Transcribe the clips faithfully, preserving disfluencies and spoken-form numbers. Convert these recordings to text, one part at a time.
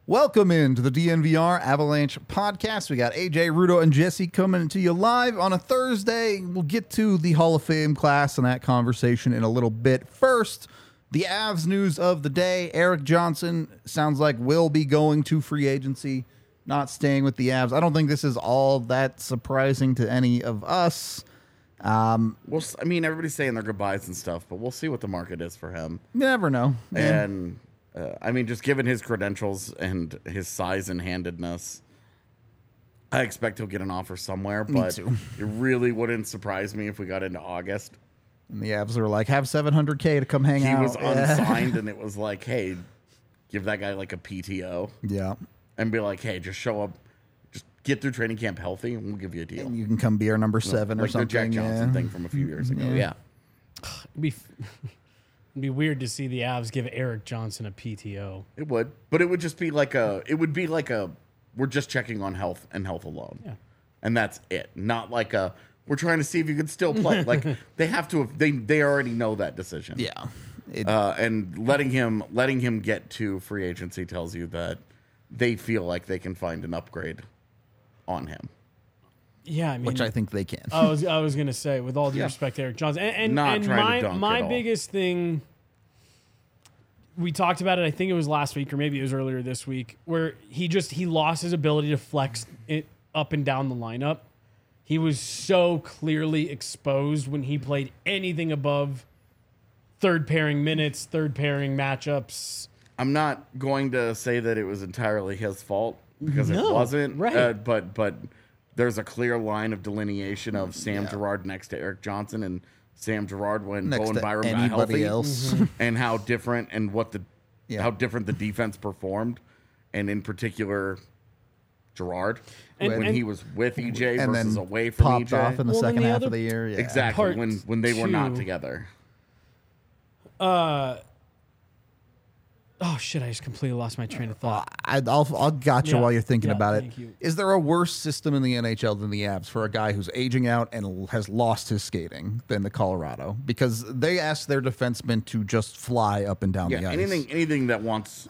Welcome into the D N V R Avalanche podcast. We got A J, Rudo, and Jesse coming to you live on a Thursday. We'll get to the Hall of Fame class and that conversation in a little bit. First, the Avs news of the day. Erik Johnson sounds like will be going to free agency, not staying with the Avs. I don't think this is all that surprising to any of us. Um, well, I mean, everybody's saying their goodbyes and stuff, but we'll see what the market is for him. You never know. Yeah. And... Uh, I mean, just given his credentials and his size and handedness, I expect he'll get an offer somewhere. But it really wouldn't surprise me if we got into August. And the Avs are like, have seven hundred K to come hang he out. He was unsigned, and it was like, hey, give that guy like a P T O. Yeah. And be like, hey, just show up. Just get through training camp healthy, and we'll give you a deal. And you can come be our number seven like or something. Like the Jack Johnson yeah. thing from a few years ago. Yeah. yeah. It'd be... It'd be weird to see the Avs give Erik Johnson a P T O. It would, but it would just be like a. It would be like a. We're just checking on health and health alone, yeah, and that's it. Not like a. We're trying to see if you can still play. Like they have to. They they already know that decision. Yeah, it, uh, and letting him letting him get to free agency tells you that they feel like they can find an upgrade on him. Yeah, I mean, which I think they can. I was I was gonna say, with all due yeah. respect to Erik Johnson, and, and, Not and trying my to dunk my at all. biggest thing, we talked about it. I think it was last week, or maybe it was earlier this week, where he just he lost his ability to flex it up and down the lineup. He was so clearly exposed when he played anything above third pairing minutes, third pairing matchups. I'm not going to say that it was entirely his fault because no, it wasn't, right? Uh, but but. There's a clear line of delineation of Sam yeah. Girard next to Erik Johnson and Sam Girard when next Bowen Byram got healthy, else. Mm-hmm. and how different and what the yeah. how different the defense performed, and in particular, Girard and, when and, he was with E J and versus then away from popped E J off in the well, second the half other, of the year. Yeah. Exactly Part when when they were two, not together. Uh. Oh shit! I just completely lost my train of thought. I, I'll I'll gotcha yeah. while you're thinking yeah, about it. You. Is there a worse system in the N H L than the Avs for a guy who's aging out and has lost his skating than the Colorado? Because they ask their defensemen to just fly up and down yeah, the ice. anything anything that wants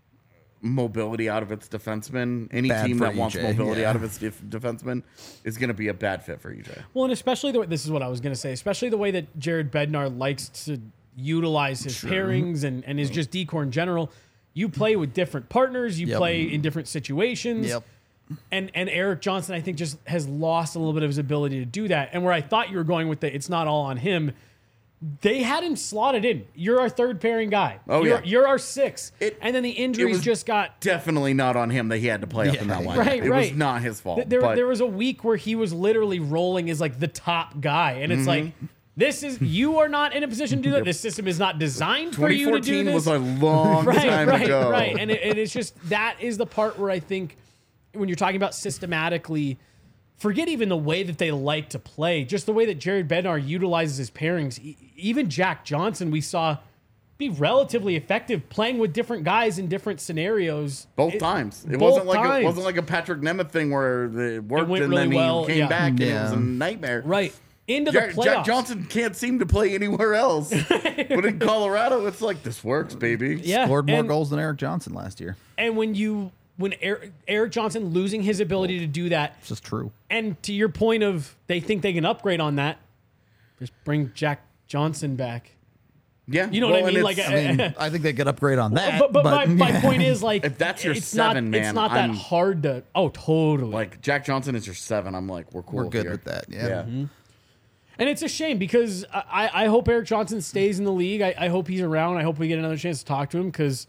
mobility out of its defensemen, any Bad team for that E J, wants mobility yeah. out of its def- defensemen is going to be a bad fit for E J. Well, and especially the way, this is what I was going to say, especially the way that Jared Bednar likes to utilize his sure. pairings and, and is just decor in general. You play with different partners. You yep. play in different situations. Yep. And and Erik Johnson, I think, just has lost a little bit of his ability to do that. And where I thought you were going with the it's not all on him, they had him slotted in. You're our third pairing guy. Oh, you're, yeah. You're our six. It, and then the injuries just got... Definitely not on him that he had to play yeah. up in that line. Right, it right. was not his fault. There, but there was a week where he was literally rolling as like the top guy. And it's mm-hmm. like... This is you are not in a position to do that. This system is not designed for you to do this. was a long right, time right, ago. Right, and, it, and it's just that is the part where I think when you're talking about systematically, forget even the way that they like to play, just the way that Jared Bednar utilizes his pairings. E- even Jack Johnson, we saw be relatively effective playing with different guys in different scenarios. Both it, times. It both wasn't like times. a, it wasn't like a Patrick Nemeth thing where it worked it and really then he well, came yeah. back and yeah. it was a nightmare. Right. Into Jack, the playoffs. Jack Johnson can't seem to play anywhere else. But in Colorado, it's like, this works, baby. Yeah, Scored more and, goals than Erik Johnson last year. And when you when Erik, Erik Johnson losing his ability to do that, it's just true. And to your point of they think they can upgrade on that, just bring Jack Johnson back. Yeah, you know well, what I mean. Like, I mean, I think they could upgrade on that. But, but, but my, my yeah. point is, like, if that's your it's seven, not, man, it's not I'm, that hard to. Oh, totally. Like Jack Johnson is your seven. I'm like, we're cool. We're good here. with that. Yeah. yeah. Mm-hmm. And it's a shame because I, I hope Erik Johnson stays in the league. I, I hope he's around. I hope we get another chance to talk to him because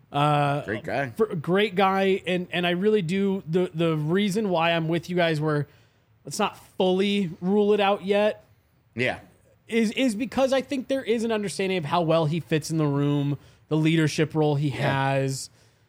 uh, great guy, for, great guy, and and I really do the the reason why I'm with you guys where let's not fully rule it out yet. Yeah, is is because I think there is an understanding of how well he fits in the room, the leadership role he yeah. has,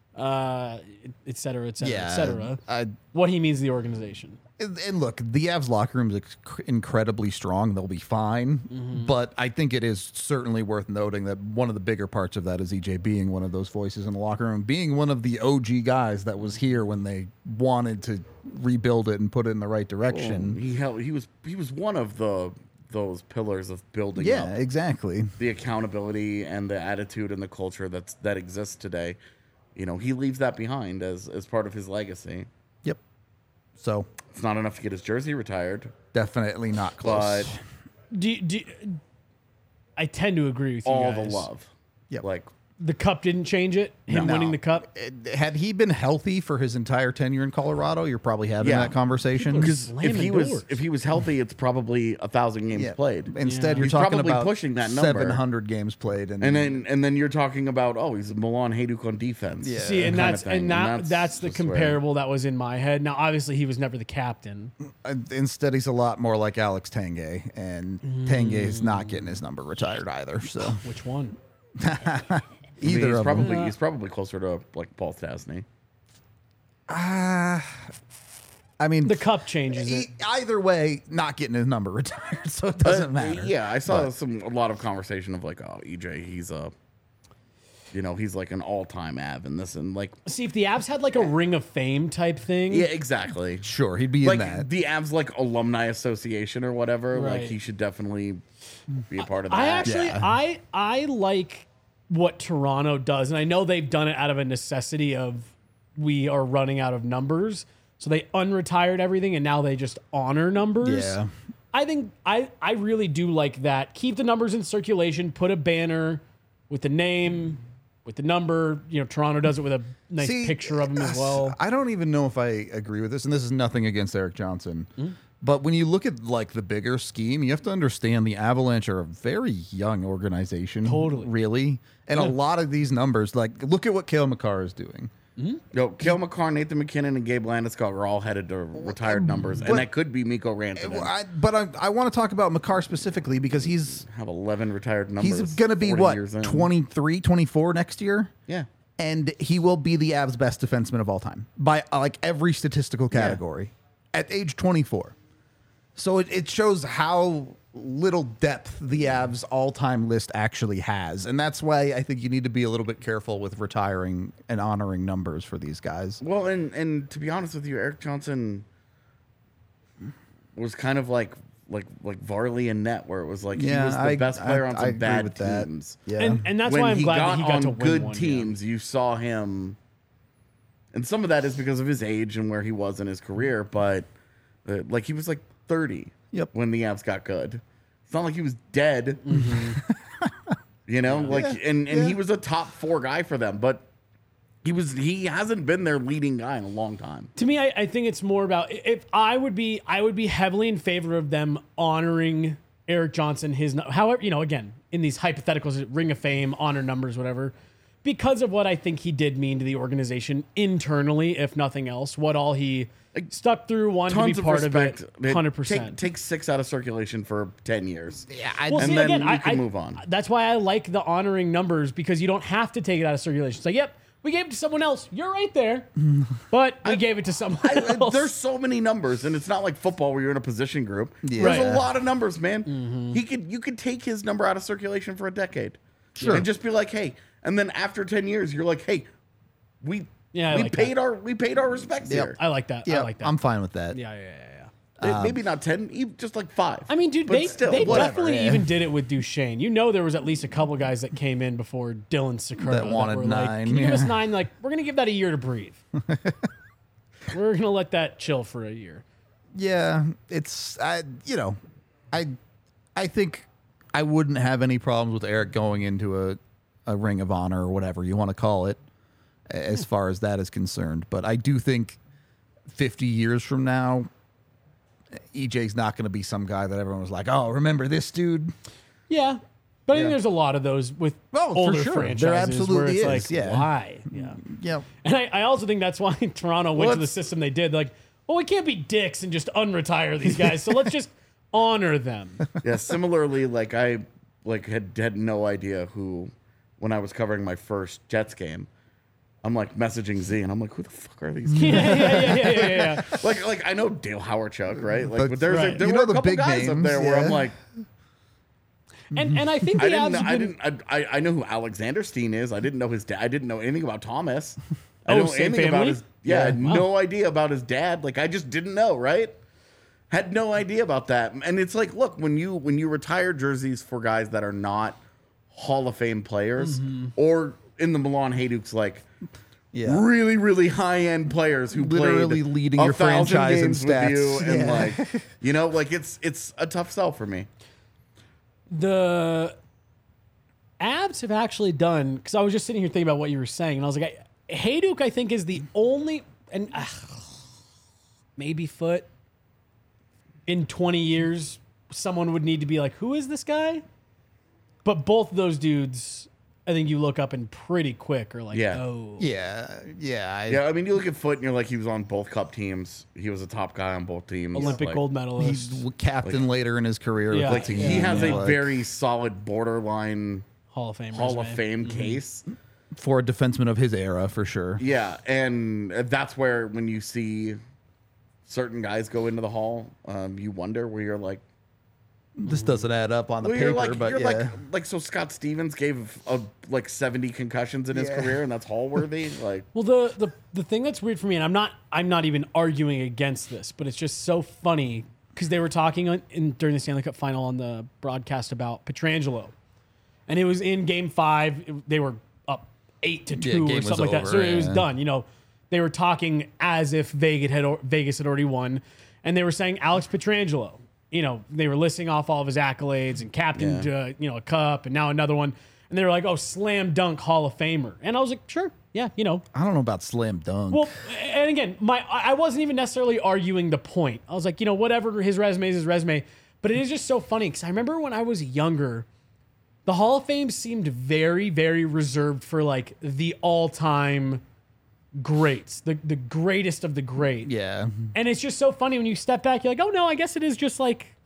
uh, et cetera, et cetera, Yeah, et cetera. I, what he means to the organization. And, and look, the Avs locker room is inc- incredibly strong. They'll be fine. Mm-hmm. But I think it is certainly worth noting that one of the bigger parts of that is E J being one of those voices in the locker room, being one of the O G guys that was here when they wanted to rebuild it and put it in the right direction. Oh, he held, he was he was one of the those pillars of building yeah, up exactly. the accountability and the attitude and the culture that's that exists today. you know, he leaves that behind as as part of his legacy. Yep. So It's not enough to get his jersey retired, definitely not close. but Do, do, I tend to agree with you all guys. the love. Yep. Like, The cup didn't change it. Him No. winning the cup. It- had he been healthy for his entire tenure in Colorado, you're probably having Yeah. that conversation. because if Slamming he doors. was if he was healthy, it's probably a thousand games Yeah. played. Instead, Yeah. you're He's talking probably about pushing that number. seven hundred games played, and, And then and then you're talking about, oh, he's Milan Hajduk on defense. Yeah. See, and kind of that's thing. and that that's, the just where- comparable that was in my head. Now, obviously, he was never the captain. uh, instead he's a lot more like Alex Tanguay, and Tanguay is not getting his number retired either. So Which one? I mean, either he's of probably them. he's probably closer to like Paul Stastny. I mean, The cup changes it. e- either way, not getting his number retired, so it doesn't Uh, matter. Yeah, I saw But- some a lot of conversation of like, oh, E J, he's a, you know, he's like an all-time Av and this and like, See, if the Avs had like a Ring of Fame type thing, yeah, exactly. Sure, he'd be Like in that. the Avs like alumni association or whatever. Like Right. he should definitely be a part of that. I actually Yeah. I I like what Toronto does, and I know they've done it out of a necessity of we are running out of numbers, so they unretired everything and now they just honor numbers. Yeah. I think I I really do like that. Keep the numbers in circulation. Put a banner with the name, with the number. You know, Toronto does it with a nice See, picture of him as well. I don't even know if I agree with this, and this is nothing against Eric Johnson. Hmm? But when you look at like the bigger scheme, you have to understand the Avalanche are a very young organization. Totally. Really. And a lot of these numbers, like look at what Cale Makar is doing. Yo, Cale Makar, Nathan McKinnon, and Gabe Landeskog are all headed to retired numbers, but- and that could be Mikko Rantanen. I, but I, I want to talk about Makar specifically because he's Have eleven retired numbers. he's going to be forty what, years in. twenty-three, twenty-four next year? Yeah. And he will be the Avs' best defenseman of all time by uh, like every statistical category at age twenty-four. So it, it shows how little depth the Avs' all-time list actually has. And that's why I think you need to be a little bit careful with retiring and honoring numbers for these guys. Well, and and to be honest with you, Eric Johnson was kind of like like like Varley and Net, where it was like he Yeah, was the I- best player I- on I some agree bad with that. teams. Yeah. And and that's when why I'm he glad got that he got on to win good one, yeah. teams, you saw him, and some of that is because of his age and where he was in his career. But uh, like he was like thirty Yep. when the Avs got good. It's not like he was dead. Mm-hmm. You know, like and and yeah. he was a top four guy for them, but he was he hasn't been their leading guy in a long time. To me, I, I think it's more about if I would be, I would be heavily in favor of them honoring Eric Johnson. His, however, you know, again in these hypotheticals, Ring of Fame, honor numbers, whatever, because of what I think he did mean to the organization internally, if nothing else. What all he stuck through, wanted to Tons be of part respect. of it, hundred percent. Take, take six out of circulation for ten years. Yeah, I, Well, and see, then again, you I, can I- move on. That's why I like the honoring numbers because you don't have to take it out of circulation. It's like, yep, we gave it to someone else. You're right there, but we gave it to someone I- I- else. there's so many numbers, and it's not like football where you're in a position group. Yeah. There's Right. a lot of numbers, man. Mm-hmm. He could you could take his number out of circulation for a decade, Sure. and just be like, hey, and then after ten years, you're like, hey, we Yeah, I we like paid that. our we paid our respects Yep. here. I like that. yeah, I like that. I'm fine with that. yeah, yeah, yeah, yeah. Eh, Maybe not ten, even just like five. I mean, dude, But they, still, they whatever. definitely yeah. even did it with Duchesne. You know, there was at least a couple guys that came in before Dylan Sakura That wanted were nine, Like, Can you give us yeah. nine? Like, we're gonna give that a year to breathe. We're gonna let that chill for a year. Yeah, it's I you know, I I think I wouldn't have any problems with Eric going into a a Ring of Honor or whatever you want to call it as far as that is concerned, but I do think fifty years from now E J's not going to be some guy that everyone was like, "Oh, remember this dude?" Yeah, but I think Yeah. there's a lot of those with Oh, for older sure. There franchises where absolutely it's is, like, yeah. why? Yeah, Yeah. and I, I also think that's why Toronto went Well, to the it's- system they did. Like, well, we can't be dicks and just unretire these guys, so let's just honor them. Yeah, similarly, like I like had had no idea who when I was covering my first Jets game. I'm like messaging Z, and I'm like, who the fuck are these? yeah, yeah, yeah, yeah, yeah, yeah. like, like I know Dale Howarchuk, right? Like, But- but there's Right. a, there You were know a the couple big guys up names, there where yeah. I'm like, And and I think the I didn't, Avs know, have I been- didn't, I, I, I know who Alexander Steen is. I didn't know his dad. I didn't know anything about Thomas. I Oh, didn't know same anything about family? his. Yeah, I Yeah. had Wow. no idea about his dad. Like I just didn't know, right? Had no idea about that. And it's like, look, when you when you retire jerseys for guys that are not Hall of Fame players, Mm-hmm. or in the Milan Hajduk's like Yeah. really, really high-end players who Literally played leading a your thousand franchise in games with stats. you, and Yeah. like, you know, like it's it's a tough sell for me. The Abs have actually done, because I was just sitting here thinking about what you were saying, and I was like, I, Hayduk, I think, is the only, and uh, maybe Foot, in twenty years, someone would need to be like, who is this guy? But both of those dudes, I think you look up and pretty quick are like, Yeah. oh. Yeah, yeah, I, Yeah, I mean, you look at Foot, and you're like, he was on both Cup teams. He was a top guy on both teams. Olympic like, gold medalist. He's captain later in his career. Yeah. with Like the he team. has a Like, very solid borderline Hall of Fame. Hall of resume. Fame case. for a defenseman of his era for sure. Yeah, and that's where when you see certain guys go into the Hall, um, you wonder where you're like, This doesn't add up on the well, paper, you're like, but you're yeah. like, like so Scott Stevens gave a, like seventy concussions in his Yeah. career, and that's Hall worthy. Like, Well, the, the the thing that's weird for me, and I'm not I'm not even arguing against this, but it's just so funny because they were talking on, in, during the Stanley Cup final on the broadcast about Pietrangelo, and it was in Game Five. It- they were up eight to Yeah, two game or was something like that, so over, it was yeah. done. You know, they were talking as if Vegas had al- Vegas had already won, and they were saying Alex Pietrangelo. You know, they were listing off all of his accolades and captained, Yeah. uh, you know, a cup and now another one. And they were like, oh, slam dunk Hall of Famer. And I was like, sure. Yeah, you know. I don't know about slam dunk. Well, and again, my I I wasn't even necessarily arguing the point. I was like, you know, whatever, his resume is his resume. But it is just so funny because I remember when I was younger, the Hall of Fame seemed very, very reserved for like the all-time greats, the, the greatest of the great. yeah, And it's just so funny when you step back, you're like, oh no, I guess it is just like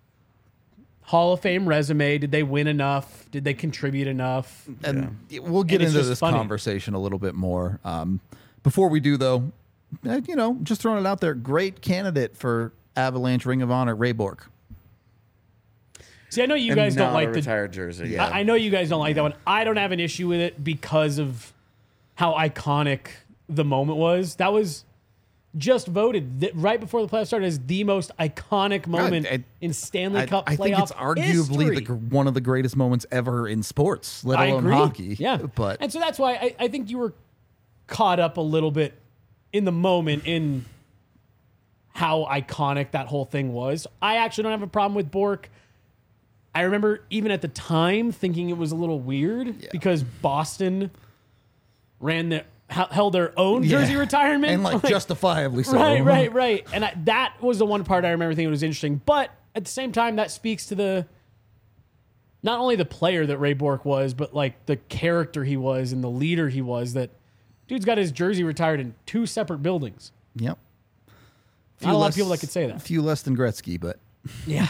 Hall of Fame resume. Did they win enough? Did they contribute enough? and we'll get And it's into just this funny. conversation a little bit more. Um, before we do, though, eh, you know, just throwing it out there, great candidate for Avalanche Ring of Honor, Ray Bork. See, I know you and guys don't not like a the retired jersey. Yeah. I, I know you guys don't like that one. I don't have an issue with it because of how iconic the moment was. That was just voted th- right before the playoffs started as the most iconic moment I- in Stanley I, Cup I playoff think it's arguably the, history. gr- one of the greatest moments ever in sports, let I alone agree. hockey. Yeah, but and so that's why I, I think you were caught up a little bit in the moment in how iconic that whole thing was. I actually don't have a problem with Bork. I remember even at the time thinking it was a little weird Yeah. because Boston ran the h- held their own Yeah. jersey retirement and like, justifiably so. right, right, right. And I, that was the one part I remember thinking was interesting. But at the same time, that speaks to the not only the player that Ray Bork was, but like the character he was and the leader he was. That dude's got his jersey retired in two separate buildings. Yep. Not a lot of people that could say that. A few less than Gretzky, but Yeah.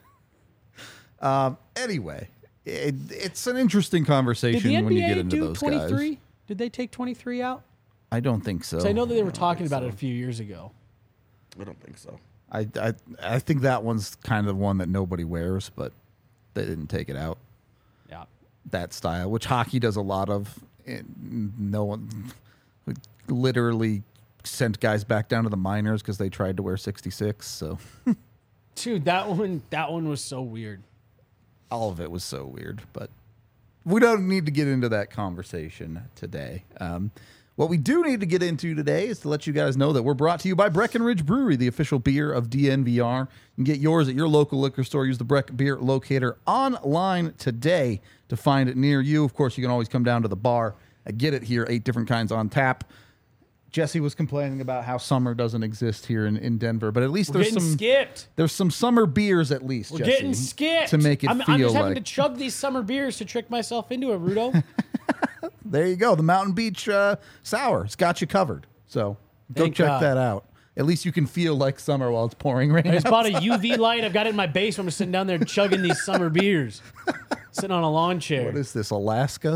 um, anyway, it, it's an interesting Did conversation the when you N B get A into do those twenty-three? guys. Did they take twenty-three out? I don't think so. 'Cause I know that they were talking about it a few years ago. I don't think so. I, I I think that one's kind of the one that nobody wears, but they didn't take it out. Yeah. That style, which hockey does a lot of. And no one literally sent guys back down to the minors because they tried to wear sixty-six. So Dude, that one that one was so weird. all of it was so weird, but we don't need to get into that conversation today. Um, what we do need to get into today is to let you guys know that we're brought to you by Breckenridge Brewery, the official beer of D N V R. You can get yours at your local liquor store. Use the Breck Beer Locator online today to find it near you. Of course, you can always come down to the bar and get it here. Eight different kinds on tap. Jesse was complaining about how summer doesn't exist here in, in Denver, but at least We're there's getting some skipped. there's some summer beers at least. We're Jesse, getting skipped. to make it I'm, feel I'm just like. having to chug these summer beers to trick myself into it, Rudo. There you go. The Mountain Beach uh, Sour. It's got you covered. So go Thank check God. that out. At least you can feel like summer while it's pouring rain. I just bought a U V light. I've got it in my basement. I'm sitting down there chugging these summer beers, sitting on a lawn chair. What is this, Alaska?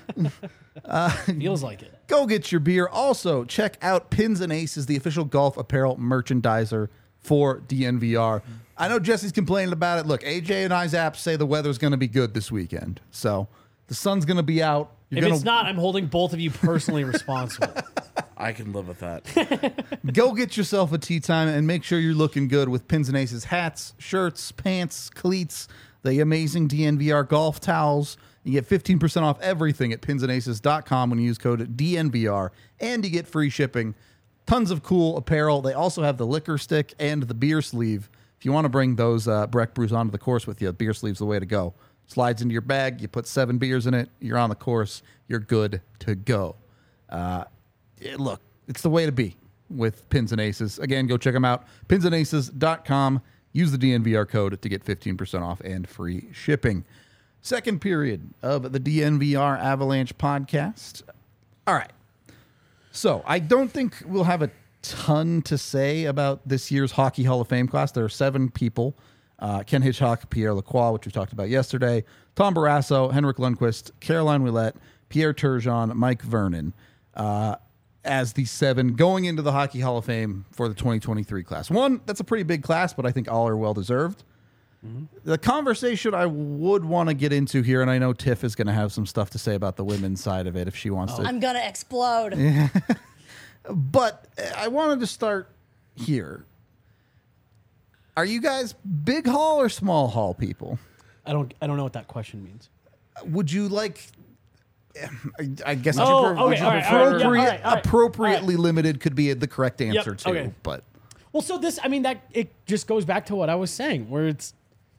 Feels like it. Go get your beer. Also, check out Pins and Aces, the official golf apparel merchandiser for D N V R. I know Jesse's complaining about it. Look, A J and I's apps say the weather's going to be good this weekend. So the sun's going to be out. You're If gonna it's not, I'm holding both of you personally responsible. I can live with that. Go get yourself a tea time and make sure you're looking good with Pins and Aces hats, shirts, pants, cleats, the amazing D N V R golf towels. You get fifteen percent off everything at pins and aces dot com when you use code D N V R, and you get free shipping. Tons of cool apparel. They also have the liquor stick and the beer sleeve. If you want to bring those uh, Breck brews onto the course with you, beer sleeve's the way to go. Slides into your bag. You put seven beers in it. You're on the course. You're good to go. Uh, it, look, it's the way to be with Pins and Aces. Again, go check them out. pins and aces dot com. Use the D N V R code to get fifteen percent off and free shipping. Second period of the D N V R Avalanche podcast. All right. So I don't think we'll have a ton to say about this year's Hockey Hall of Fame class. There are seven people. Uh, Ken Hitchcock, Pierre Lacroix, which we talked about yesterday, Tom Barrasso, Henrik Lundqvist, Caroline Ouellette, Pierre Turgeon, Mike Vernon, uh, as the seven going into the Hockey Hall of Fame for the twenty twenty-three class. One, that's a pretty big class, but I think all are well-deserved. Mm-hmm. The conversation I would want to get into here, and I know Tiff is going to have some stuff to say about the women's side of it if she wants oh. to. I'm going to explode. Yeah. But I wanted to start here. Are you guys big hall or small hall people? I don't. I don't know what that question means. Would you like? I, I guess oh, would you, okay, would you all right, appropriate, all right, all right, all right, appropriately all right. limited could be the correct answer Yep, too. okay. But well, so this. I mean, that it just goes back to what I was saying, where it's.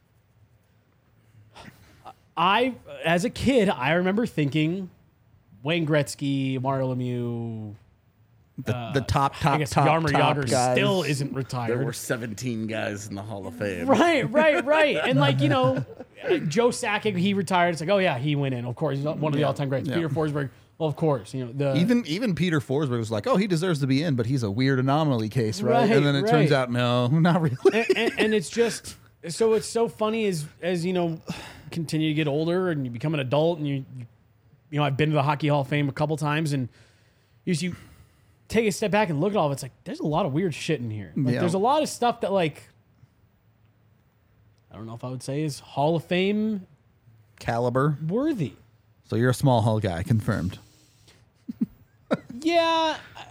I, as a kid, I remember thinking, Wayne Gretzky, Mario Lemieux. The, uh, the top, top, I guess top, Jaromir top Jagr guys. still isn't retired. There were seventeen guys in the Hall of Fame. Right, right, right. And like, you know, Joe Sakic, he retired. It's like, oh yeah, he went in. Of course, he's one of the all-time greats. Yeah. Peter Forsberg, well, of course. You know, the Even even Peter Forsberg was like, oh, he deserves to be in, but he's a weird anomaly case, right? Right, and then it right. turns out, no, not really. and, and, and it's just so it's so funny as as you know, continue to get older and you become an adult, and you you know, I've been to the Hockey Hall of Fame a couple times, and you you take a step back and look at all of it, it's like there's a lot of weird shit in here. Like Yeah. there's a lot of stuff that like I don't know if I would say is Hall of Fame Caliber. worthy. So you're a small hall guy, confirmed. Yeah.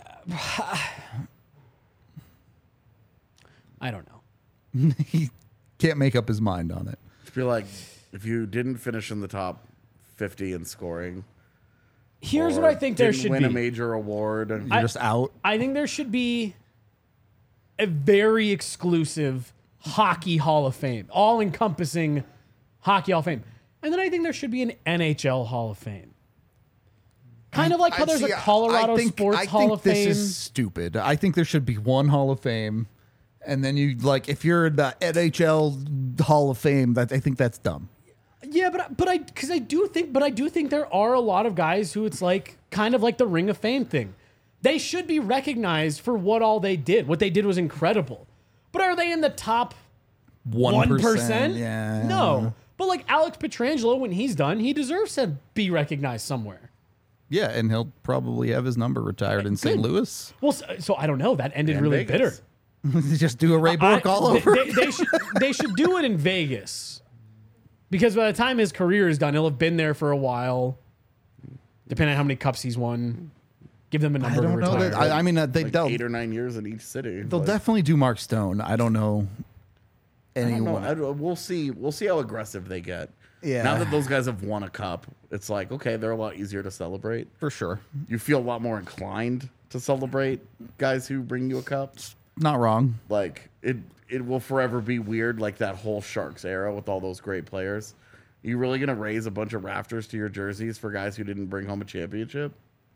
I don't know. He can't make up his mind on it. I feel like if you didn't finish in the top fifty in scoring, Here's or what I think there didn't should win be. a major award. You're I- just out. I think there should be a very exclusive Hockey Hall of Fame, all encompassing Hockey Hall of Fame. And then I think there should be an N H L Hall of Fame. Kind of like how I there's see, a Colorado I think, Sports I Hall think of this Fame. is stupid. I think there should be one Hall of Fame, and then you like if you're in the N H L Hall of Fame, that I think that's dumb. Yeah, but but I because I do think but I do think there are a lot of guys who it's like kind of like the Ring of Fame thing. They should be recognized for what all they did. What they did was incredible. But are they in the top one percent? Yeah. No. But like Alex Pietrangelo, when he's done, he deserves to be recognized somewhere. Yeah, and he'll probably have his number retired in Saint Good. Louis. Well, so, so I don't know. That ended And really Vegas. bitter. Just do a Ray Bork I- all they- over. They, they should, they should do it in Vegas. Because by the time his career is done, he'll have been there for a while. Depending on how many cups he's won. Give them a I number to don't know retire. that. I, I mean, uh, they, Like they'll eight or nine years in each city. they'll Like, definitely do Mark Stone. I don't know I don't anyone. know. I don't- we'll see. We'll see how aggressive they get. Yeah. Now that those guys have won a cup, it's like okay, they're a lot easier to celebrate. For sure. You feel a lot more inclined to celebrate guys who bring you a cup. Not wrong. Like it, it will forever be weird. Like that whole Sharks era with all those great players. You really gonna raise a bunch of rafters to your jerseys for guys who didn't bring home a championship?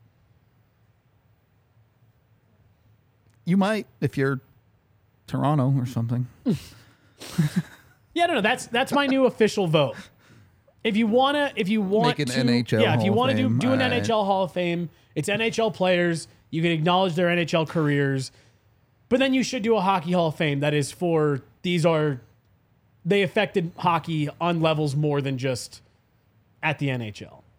You might if you're Toronto or something. Yeah, no, no. That's that's my new official vote. If you wanna, if you want Make an to, N H L yeah, if you Hall of want to do Fame, do an alright. N H L Hall of Fame, it's N H L players. You can acknowledge their N H L careers, but then you should do a Hockey Hall of Fame that is for these are they affected hockey on levels more than just at the N H L.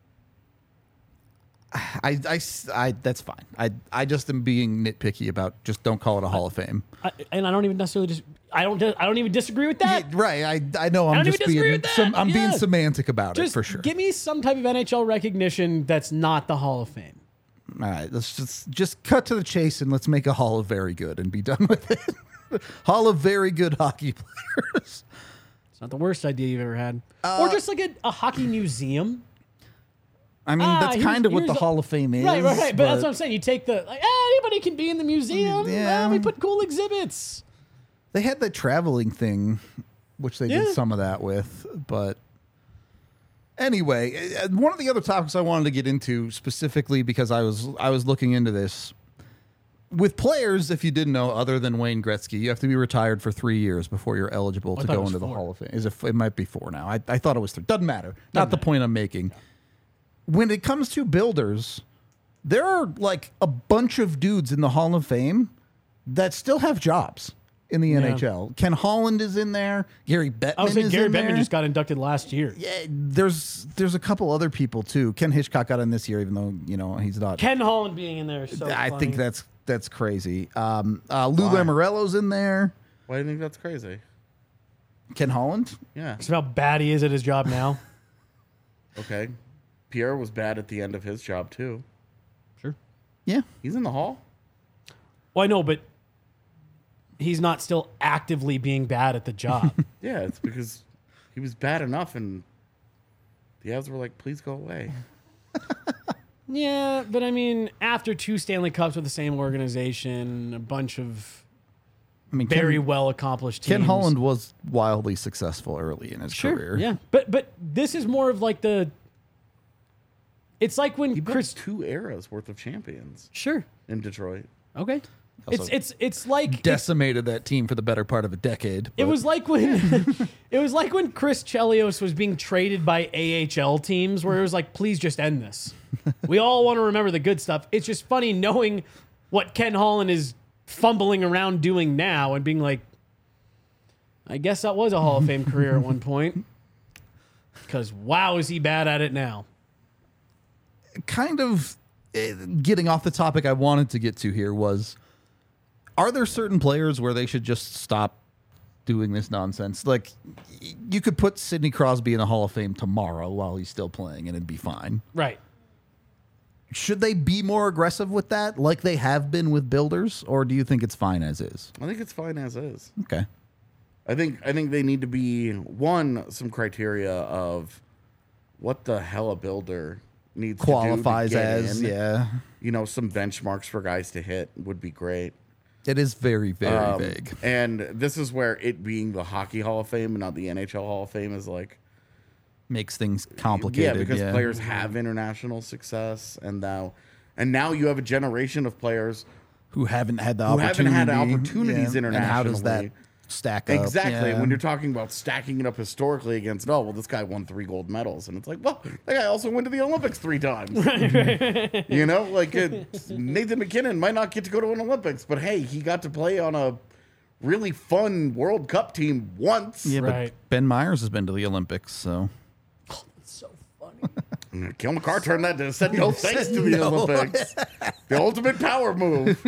I, I, I, that's fine. I, I just am being nitpicky about just don't call it a Hall of Fame. I, and I don't even necessarily just I don't I don't even disagree with that. Yeah, right. I, I know. I'm don't just even disagree being. with that. Some, I'm being Yeah. semantic about Just it for sure. give me some type of N H L recognition that's not the Hall of Fame. All right. Let's just just cut to the chase and let's make a Hall of Very Good and be done with it. Hall of Very Good Hockey Players. not the worst idea you've ever had. Uh, or just like a, a hockey museum. I mean, Ah, that's here's- kind of what here's the a- Hall of Fame is. Right, right, right. But, that's what I'm saying. You take the, like, ah, anybody can be in the museum. Yeah. Ah, we put cool exhibits. They had the traveling thing, which they Yeah. did some of that with. But anyway, uh, one of the other topics I wanted to get into specifically because I was I was looking into this. With players, if you didn't know, other than Wayne Gretzky, you have to be retired for three years before you're eligible to thought it go was into the four. Hall of Fame. Is it, it might be four now. I, I thought it was three. Doesn't matter. Not the point I'm making. When it comes to builders, there are like a bunch of dudes in the Hall of Fame that still have jobs in the Yeah. N H L. Ken Holland is in there. Gary Bettman I was saying is Gary in Bettman there. just got inducted last year. Yeah, there's there's a couple other people too. Ken Hitchcock got in this year, even though you know he's not. Ken Holland being in there is so I funny. think that's that's crazy. Um, uh, Lou Why? Lamoriello's in there. Why do you think that's crazy? Ken Holland. Yeah. It's how bad he is at his job now. Okay. Pierre was bad at the end of his job too. Sure. Yeah, He's in the Hall. Well, I know, but he's not still actively being bad at the job. Yeah, it's because he was bad enough, and the Avs were like, "Please go away." Yeah, but I mean, after two Stanley Cups with the same organization, a bunch of I mean very Ken, well accomplished teams. Ken Holland was wildly successful early in his sure, career. yeah, but but this is more of like the. It's like when He built Chris. two eras worth of champions Sure. in Detroit. Okay. Also It's it's it's like it's- Decimated that team for the better part of a decade. It but- was like when it was like when Chris Chelios was being traded by A H L teams, where it was like, please just end this. We all want to remember the good stuff. It's just funny knowing what Ken Holland is fumbling around doing now and being like, I guess that was a Hall of Fame career at one point. Because wow, is he bad at it now? kind of eh, getting off the topic I wanted to get to here was, are there certain players where they should just stop doing this nonsense? Like, y- you could put Sidney Crosby in the Hall of Fame tomorrow while he's still playing and it'd be fine. Right. Should they be more aggressive with that like they have been with builders, or do you think it's fine as is? I think it's fine as is. Okay. I think I think they need to be one some criteria of what the hell a builder needs Qualifies to do to get as, in. yeah. You know, some benchmarks for guys to hit would be great. It is very, very Um, vague. And this is where it being the Hockey Hall of Fame and not the N H L Hall of Fame is like, Makes things complicated. yeah, because yeah. players have international success, and now, and now you have a generation of players who haven't had the who haven't opportunity. had opportunities And how does that internationally. stack up? Exactly. Yeah. When you're talking about stacking it up historically against, oh, well, this guy won three gold medals. And it's like, well, that guy also went to the Olympics three times. You know, like it, Nathan McKinnon might not get to go to an Olympics, but hey, he got to play on a really fun World Cup team once. Yeah, Right. but Ben Myers has been to the Olympics, so It's so funny. Kel McCarr turned that to said no thanks to the no. Olympics. The ultimate power move.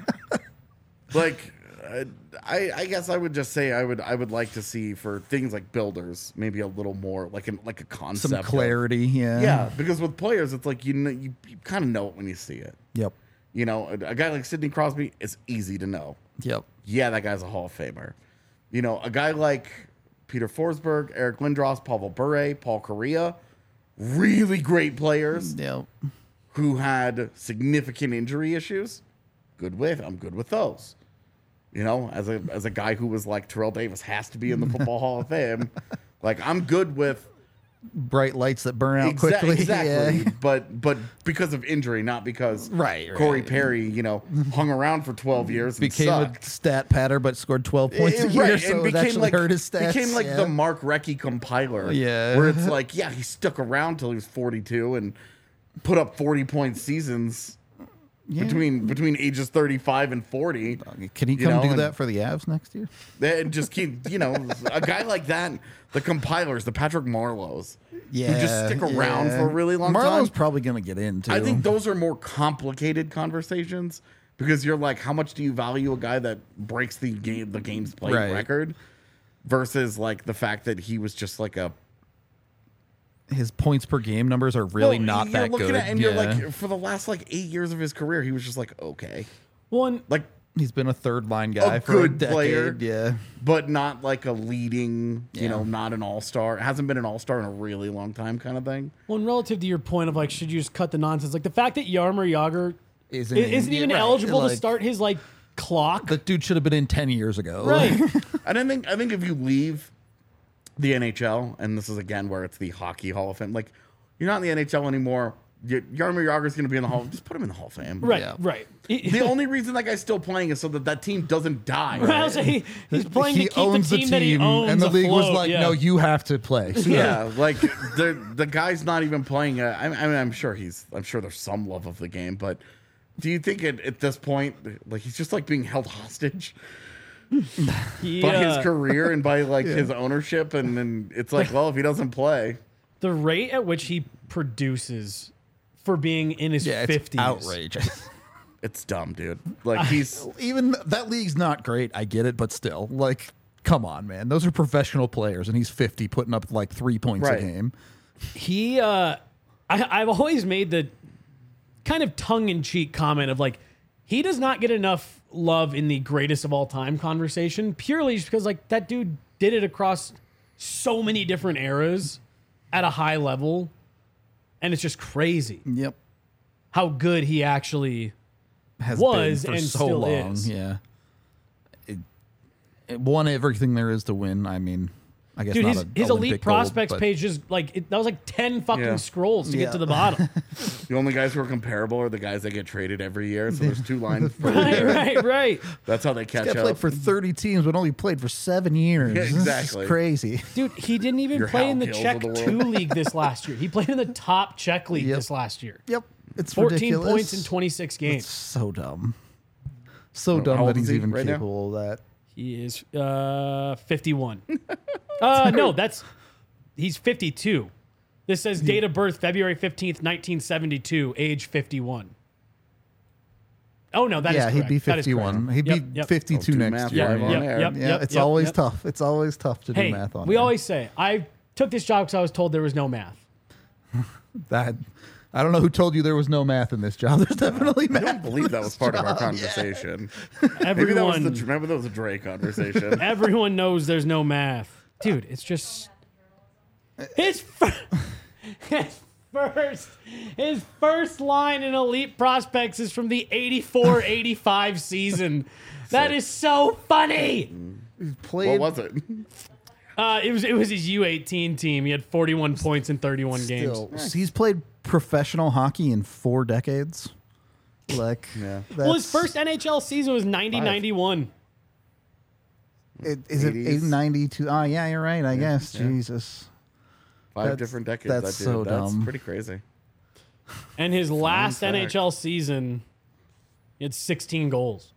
Like, uh, I, I guess I would just say I would I would like to see for things like builders maybe a little more like an like a concept some of- clarity. Yeah. yeah, because with players it's like you know you, you kind of know it when you see it. Yep. You know, a, a guy like Sidney Crosby, it's easy to know. Yep. Yeah, that guy's a Hall of Famer. You know, a guy like Peter Forsberg, Eric Lindros, Pavel Bure, Paul Correa, really great players Yep. who had significant injury issues. Good with, I'm good with those. You know, as a as a guy who was like Terrell Davis has to be in the Football Hall of Fame, like I'm good with Bright lights that burn out Exa- quickly. exactly, Yeah. but but because of injury, not because Right, Corey right. Perry, you know, hung around for twelve years and Became sucked. a stat patter, but scored twelve points a Eh, year, right, so and it became actually like hurt his stats. became like yeah. the Mark Recchi compiler. Yeah. where it's like, yeah, he stuck around till he was forty-two and put up forty point seasons Yeah. between between ages thirty-five and forty. Can he you come know, do and- that for the Avs next year? And just keep, you know, a guy like that, the compilers, the Patrick Marlows, Yeah. who just stick around yeah. for a really long Marlowe's time. probably going to get in, too. I think those are more complicated conversations because you're like, how much do you value a guy that breaks the game, the game's played Right. record, versus like the fact that he was just like a his points per game numbers are really Well, not you're that looking good. At, and yeah. you're like, for the last like eight years of his career, he was just like, okay, One, like He's been a third line guy A for good a decade. player. Yeah. but not like a leading, you Yeah. know, not an all-star. Hasn't been an all-star in a really long time kind of thing. Well, and relative to your point of like, should you just cut the nonsense? Like the fact that Yarmer Yager Isn't, isn't, isn't even right, eligible like, to start his like clock. The dude should have been in ten years ago. Right. I don't think I think if you leave the N H L, and this is again where it's the Hockey Hall of Fame, like you're not in the N H L anymore. Y- Jaromir Jagr's going to be in the Hall. Just put him in the Hall of Fame. right. Yeah. Right. The only reason that guy's still playing is so that that team doesn't die. Well, so he, he's playing he to keep owns the team, that he owns and the league was afloat, like, yeah. "No, you have to play." So Yeah, like the the guy's not even playing. A, I, I mean, I'm sure he's. I'm sure there's some love of the game, but do you think at, at this point, like he's just like being held hostage He, by uh, his career and by like his ownership, and then it's like, well, if he doesn't play, the rate at which he produces for being in his Yeah, it's fifties. outrageous. it's dumb, dude. Like he's Even that league's not great. I get it, but still, like, come on, man. Those are professional players, and he's fifty, putting up like three points Right. a game. He, uh, I, I've always made the kind of tongue-in-cheek comment of like, he does not get enough love in the greatest of all time conversation, purely just because like that dude did it across so many different eras at a high level, and it's just crazy Yep, how good he actually has was been for and so still long. is. Yeah, it, it won everything there is to win. I mean, I guess Dude, not his, a his Olympic elite gold, prospects but- page just like it, that was like ten fucking Yeah. scrolls to Yeah. get to the bottom. the only guys who are comparable are the guys that get traded every year. So there's two lines. per right, year. right, right. That's how they catch Got up. played for thirty teams, but only played for seven years. Yeah, This is exactly. crazy. Dude, he didn't even Your play in the Hal Kills Czech of the world. two league this last year. He played in the top Czech league Yep. this last year. Yep, it's fourteen ridiculous. points in twenty-six games. So dumb. So How dumb old that is he's he even right now? capable of that. He is uh, fifty-one. uh, no, that's he's fifty-two. This says date of birth February fifteenth, nineteen seventy-two, age fifty-one. Oh no, that is yeah, he'd correct. be That is fifty-one. correct. He'd Yep, be yep. fifty-two Don't do next math year. live on Yep, air. yep, Yeah, yep, it's yep, always yep. tough. It's always tough to Hey, do math on. we air. always say I took this job because I was told there was no math. that. I don't know who told you there was no math in this job. There's definitely I math. don't believe in that this was part of our job. Yeah. conversation. Maybe that was Everyone, the remember that was a Dre conversation. everyone knows there's no math, dude. It's just his fir- his first his first line in Elite Prospects is from the eighty-four eighty-five season. That is so funny. Played What was it? Uh, it was it was his U eighteen team. He had forty-one points in thirty-one games. still. He's played professional hockey in four decades. Like, Yeah. Well, his that's- first N H L season was ninety ninety-one. it, is it eighties. eight ninety-two? Oh, yeah, you're right. I guess. yeah. Jesus. Five That's- different decades. that's that dude. so That's dumb. pretty crazy. And his last fact. N H L season, he had sixteen goals.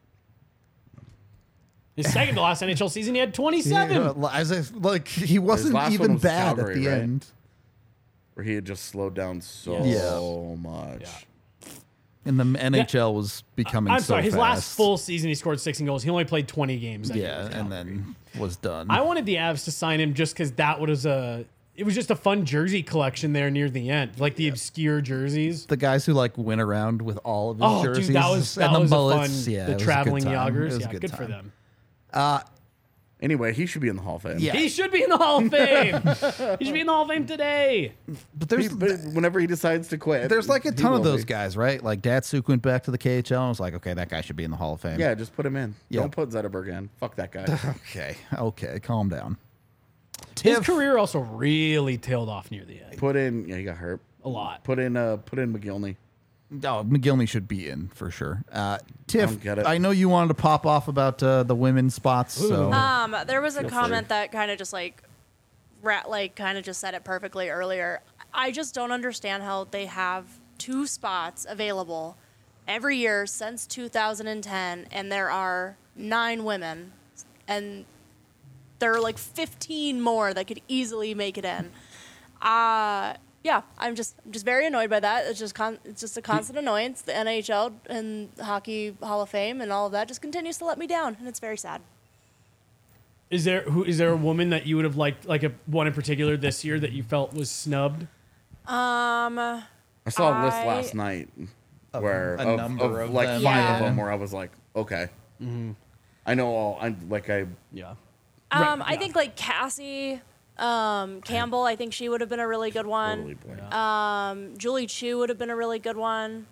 His second to last N H L season, he had twenty-seven. Yeah, as if, like he wasn't last one even was bad Calgary, at the right? end. Where he had just slowed down so Yeah. much. Yeah. And the N H L was becoming. I'm so sorry, his fast. last full season, he scored sixteen goals. He only played twenty games. that year Yeah, with and Calgary. then was done. I wanted the Avs to sign him just because that was a. It was just a fun jersey collection there near the end, like the obscure jerseys. the guys who like went around with all of his Oh, jerseys dude, that was that and the was mullets. a fun. Yeah, it the was a good traveling time. It Yoggers, was a yeah, good good for time. them. Anyway, he should be in the Hall of Fame. Yeah. He should be in the Hall of Fame. He should be in the Hall of Fame today. But He- there's but whenever he decides to quit, there's like a he ton of will those be. guys, right? Like Datsuk went back to the K H L and was like, okay, that guy should be in the Hall of Fame. Yeah, just put him in. Yeah. Don't put Zetterberg in. Fuck that guy. Okay. Okay. Calm down. His Tiff- career also really tailed off near the end. put in. Yeah, he got hurt. A lot. Put in. Uh, put in McGillney. Oh, McGillney should be in for sure. Uh, Tiff, don't get it. I know you wanted to pop off about uh, the women's spots. So Um, there was a Feel comment free. that kind of just like, rat like kind of just said it perfectly earlier. I just don't understand how they have two spots available every year since two thousand ten, and there are nine women, and there are like fifteen more that could easily make it in. Uh yeah, I'm just I'm just very annoyed by that. It's just con- it's just a constant annoyance. The N H L and Hockey Hall of Fame and all of that just continues to let me down, and it's very sad. Is there who is there a woman that you would have liked, like a one in particular this year that you felt was snubbed? Um, I saw a list I- last night where a of, number of, of like them. five Yeah. of them where I was like, okay, Mm-hmm. I know all. I'm like I. Yeah. Um, Right, I yeah. think like Cassie um, Campbell. I think she would have been a really good Totally one. blanked. Um, Julie Chu would have been a really good one.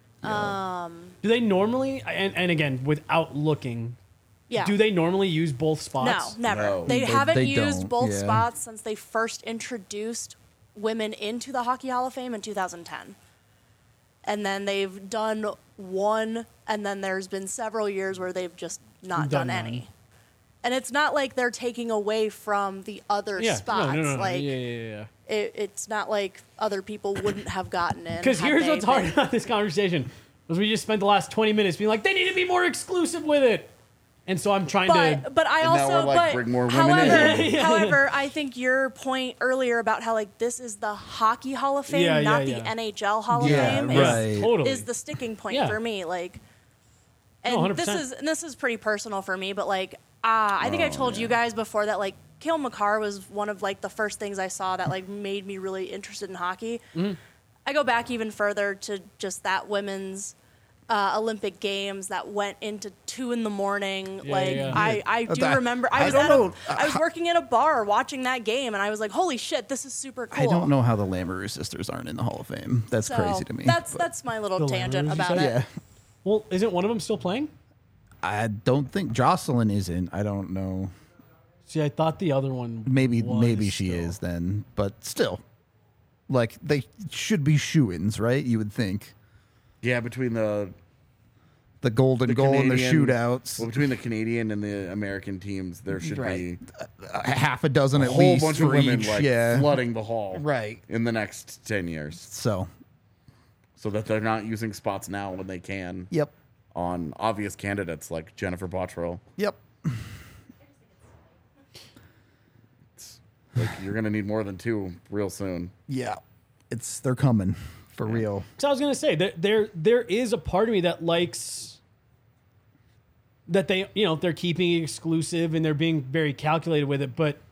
Do they normally, and, and again, without looking, Yeah. do they normally use both No, spots? never. No. They, They- haven't they used don't, both yeah. spots since they first introduced women into the Hockey Hall of Fame in two thousand ten. And then they've done one, and then there's been several years where they've just not Done done, none. any. And it's not like they're taking away from the other Yeah. spots. No, no, no, no. Like yeah, yeah, yeah. It, it's not like other people wouldn't have gotten in. Because had here's they what's hard been- about this conversation was we just spent the last twenty minutes being like, they need to be more exclusive with it. And so I'm trying to. But but I And now also we're like, but bring more women however in. however I think your point earlier about how like this is the Hockey Hall of Fame, Yeah, yeah, not yeah. the N H L Hall Yeah, of Fame, Yeah, right. totally. is, is the sticking point Yeah. for me. Like, No, one and hundred this percent. is and this is pretty personal for me. But like, uh, I think Oh, I told yeah. you guys before that like Cale Makar was one of like the first things I saw that like made me really interested in hockey. Mm-hmm. I go back even further to just that women's uh, Olympic Games that went into two in the morning. Yeah, like yeah. I, I do that- remember I I was don't at know, a, I was working in a bar watching that game and I was like, holy shit, this is super cool. I don't know how the Lamoureux sisters aren't in the Hall of Fame. That's So, crazy to me. That's but that's my little The tangent Lamoureux, you about said? it. yeah. Well, isn't one of them still playing? I don't think Jocelyn isn't. I don't know. See, I thought the other one. Maybe was maybe she still. is then, but still, like they should be shoo-ins, right? You would think Yeah, between the the golden the goal and the Canadian- shootouts, Well, between the Canadian and the American teams, there should Right. be a half a dozen a at whole least bunch for of women each. like yeah, flooding the hall right. in the next ten years, So, so that they're not using spots now when they can yep, on obvious candidates like Jennifer Botterill. yep. Like you're gonna need more than two real soon. Yeah, it's they're coming for real. So I was gonna say that there there is a part of me that likes that they you know they're keeping it exclusive and they're being very calculated with it, but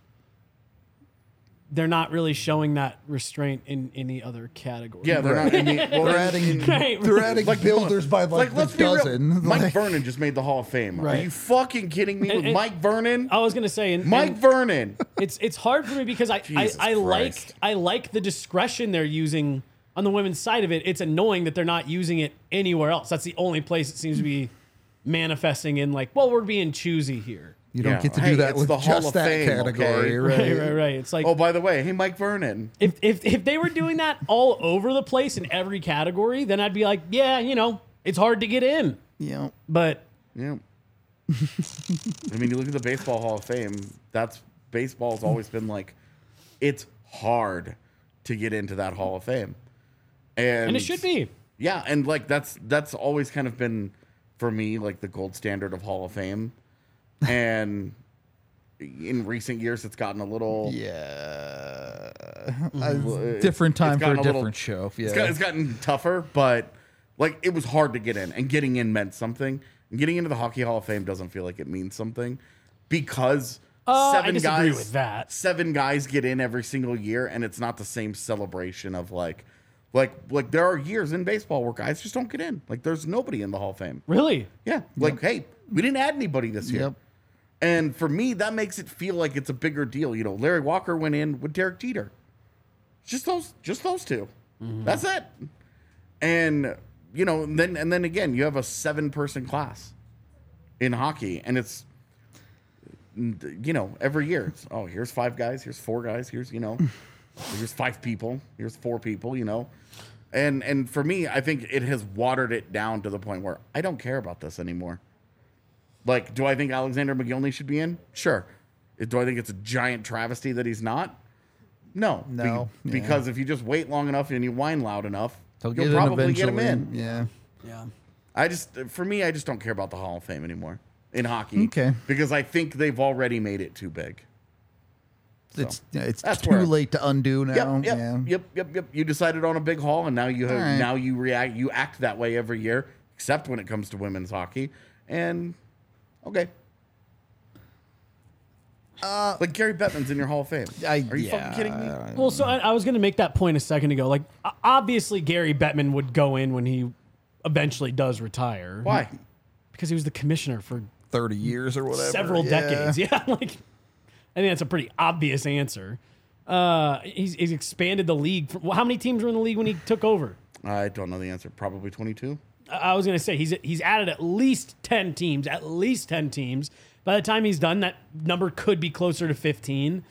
they're not really showing that restraint in any other category. Yeah, they're not. Any, well, They're in- adding in- Right. they're adding Like, builders by like, like the let's be dozen. real. Mike Like, Vernon just made the Hall of Fame. Are Right. you fucking kidding me? And- With and- Mike Vernon, I was gonna say, and, Mike and Vernon. it's it's hard for me because I I, Jesus I like Christ. I like the discretion they're using on the women's side of it. It's annoying that they're not using it anywhere else. That's the only place it seems to be manifesting in. Like, well, we're being choosy here. you don't Yeah. get to Hey, do that it's with the Hall just of that Fame, category, okay? right? Right, right, right. It's like Oh, by the way, hey, Mike Vernon. if, if if they were doing that all over the place in every category, then I'd be like, yeah, you know, it's hard to get in. Yeah. But Yeah. I mean, you look at the Baseball Hall of Fame. That's baseball's always been like, it's hard to get into that Hall of Fame, and and it should be. Yeah, and like that's that's always kind of been for me like the gold standard of Hall of Fame, and in recent years it's gotten a little Yeah. Well, A it's- different time it's for a gotten a different little- show. Yeah. It's, got, it's gotten tougher, but like it was hard to get in, and getting in meant something. And getting into the Hockey Hall of Fame doesn't feel like it means something because Uh, I seven disagree guys with that. seven guys get in every single year, and it's not the same celebration of like, like, like there are years in baseball where guys just don't get in. Like there's nobody in the Hall of Fame. Really? Yeah, like hey, we didn't add anybody this year. Yep. And for me, that makes it feel like it's a bigger deal. You know, Larry Walker went in with Derek Jeter. Just those, just those two. That's it. And you know, and then and then again, you have a seven-person class in hockey, and it's you know every year. It's, oh, here's five guys. Here's four guys. Here's you know, here's five people. Here's four people. You know, and and for me, I think it has watered it down to the point where I don't care about this anymore. Like, do I think Alexander McGillney should be in? Sure. Do I think it's a giant travesty that he's not? No. Be- No. Yeah. Because if you just wait long enough and you whine loud enough, They'll you'll get probably in get him eventually. in. Yeah. Yeah. I just, for me, I just don't care about the Hall of Fame anymore in hockey. Okay. Because I think they've already made it too big. It's yeah, it's that's too where- late to undo now. Yep, yep, yeah. yep, yep, yep. You decided on a big hall, and now you have, All right. now you react, you act that way every year, except when it comes to women's hockey. And okay, uh, like Gary Bettman's in your Hall of Fame. I- Are you yeah. fucking kidding me? Well, so I, I was going to make that point a second ago. Like, o- obviously, Gary Bettman would go in when he eventually does retire. Why? Because he was the commissioner for thirty years or whatever. several Yeah. decades. Yeah, like I think that's a pretty obvious answer. Uh, he's, he's expanded the league. For, well, how many teams were in the league when he took over? I don't know the answer. Probably twenty-two. I, I was going to say he's he's added at least ten teams. At least ten teams. By the time he's done, that number could be closer to fifteen.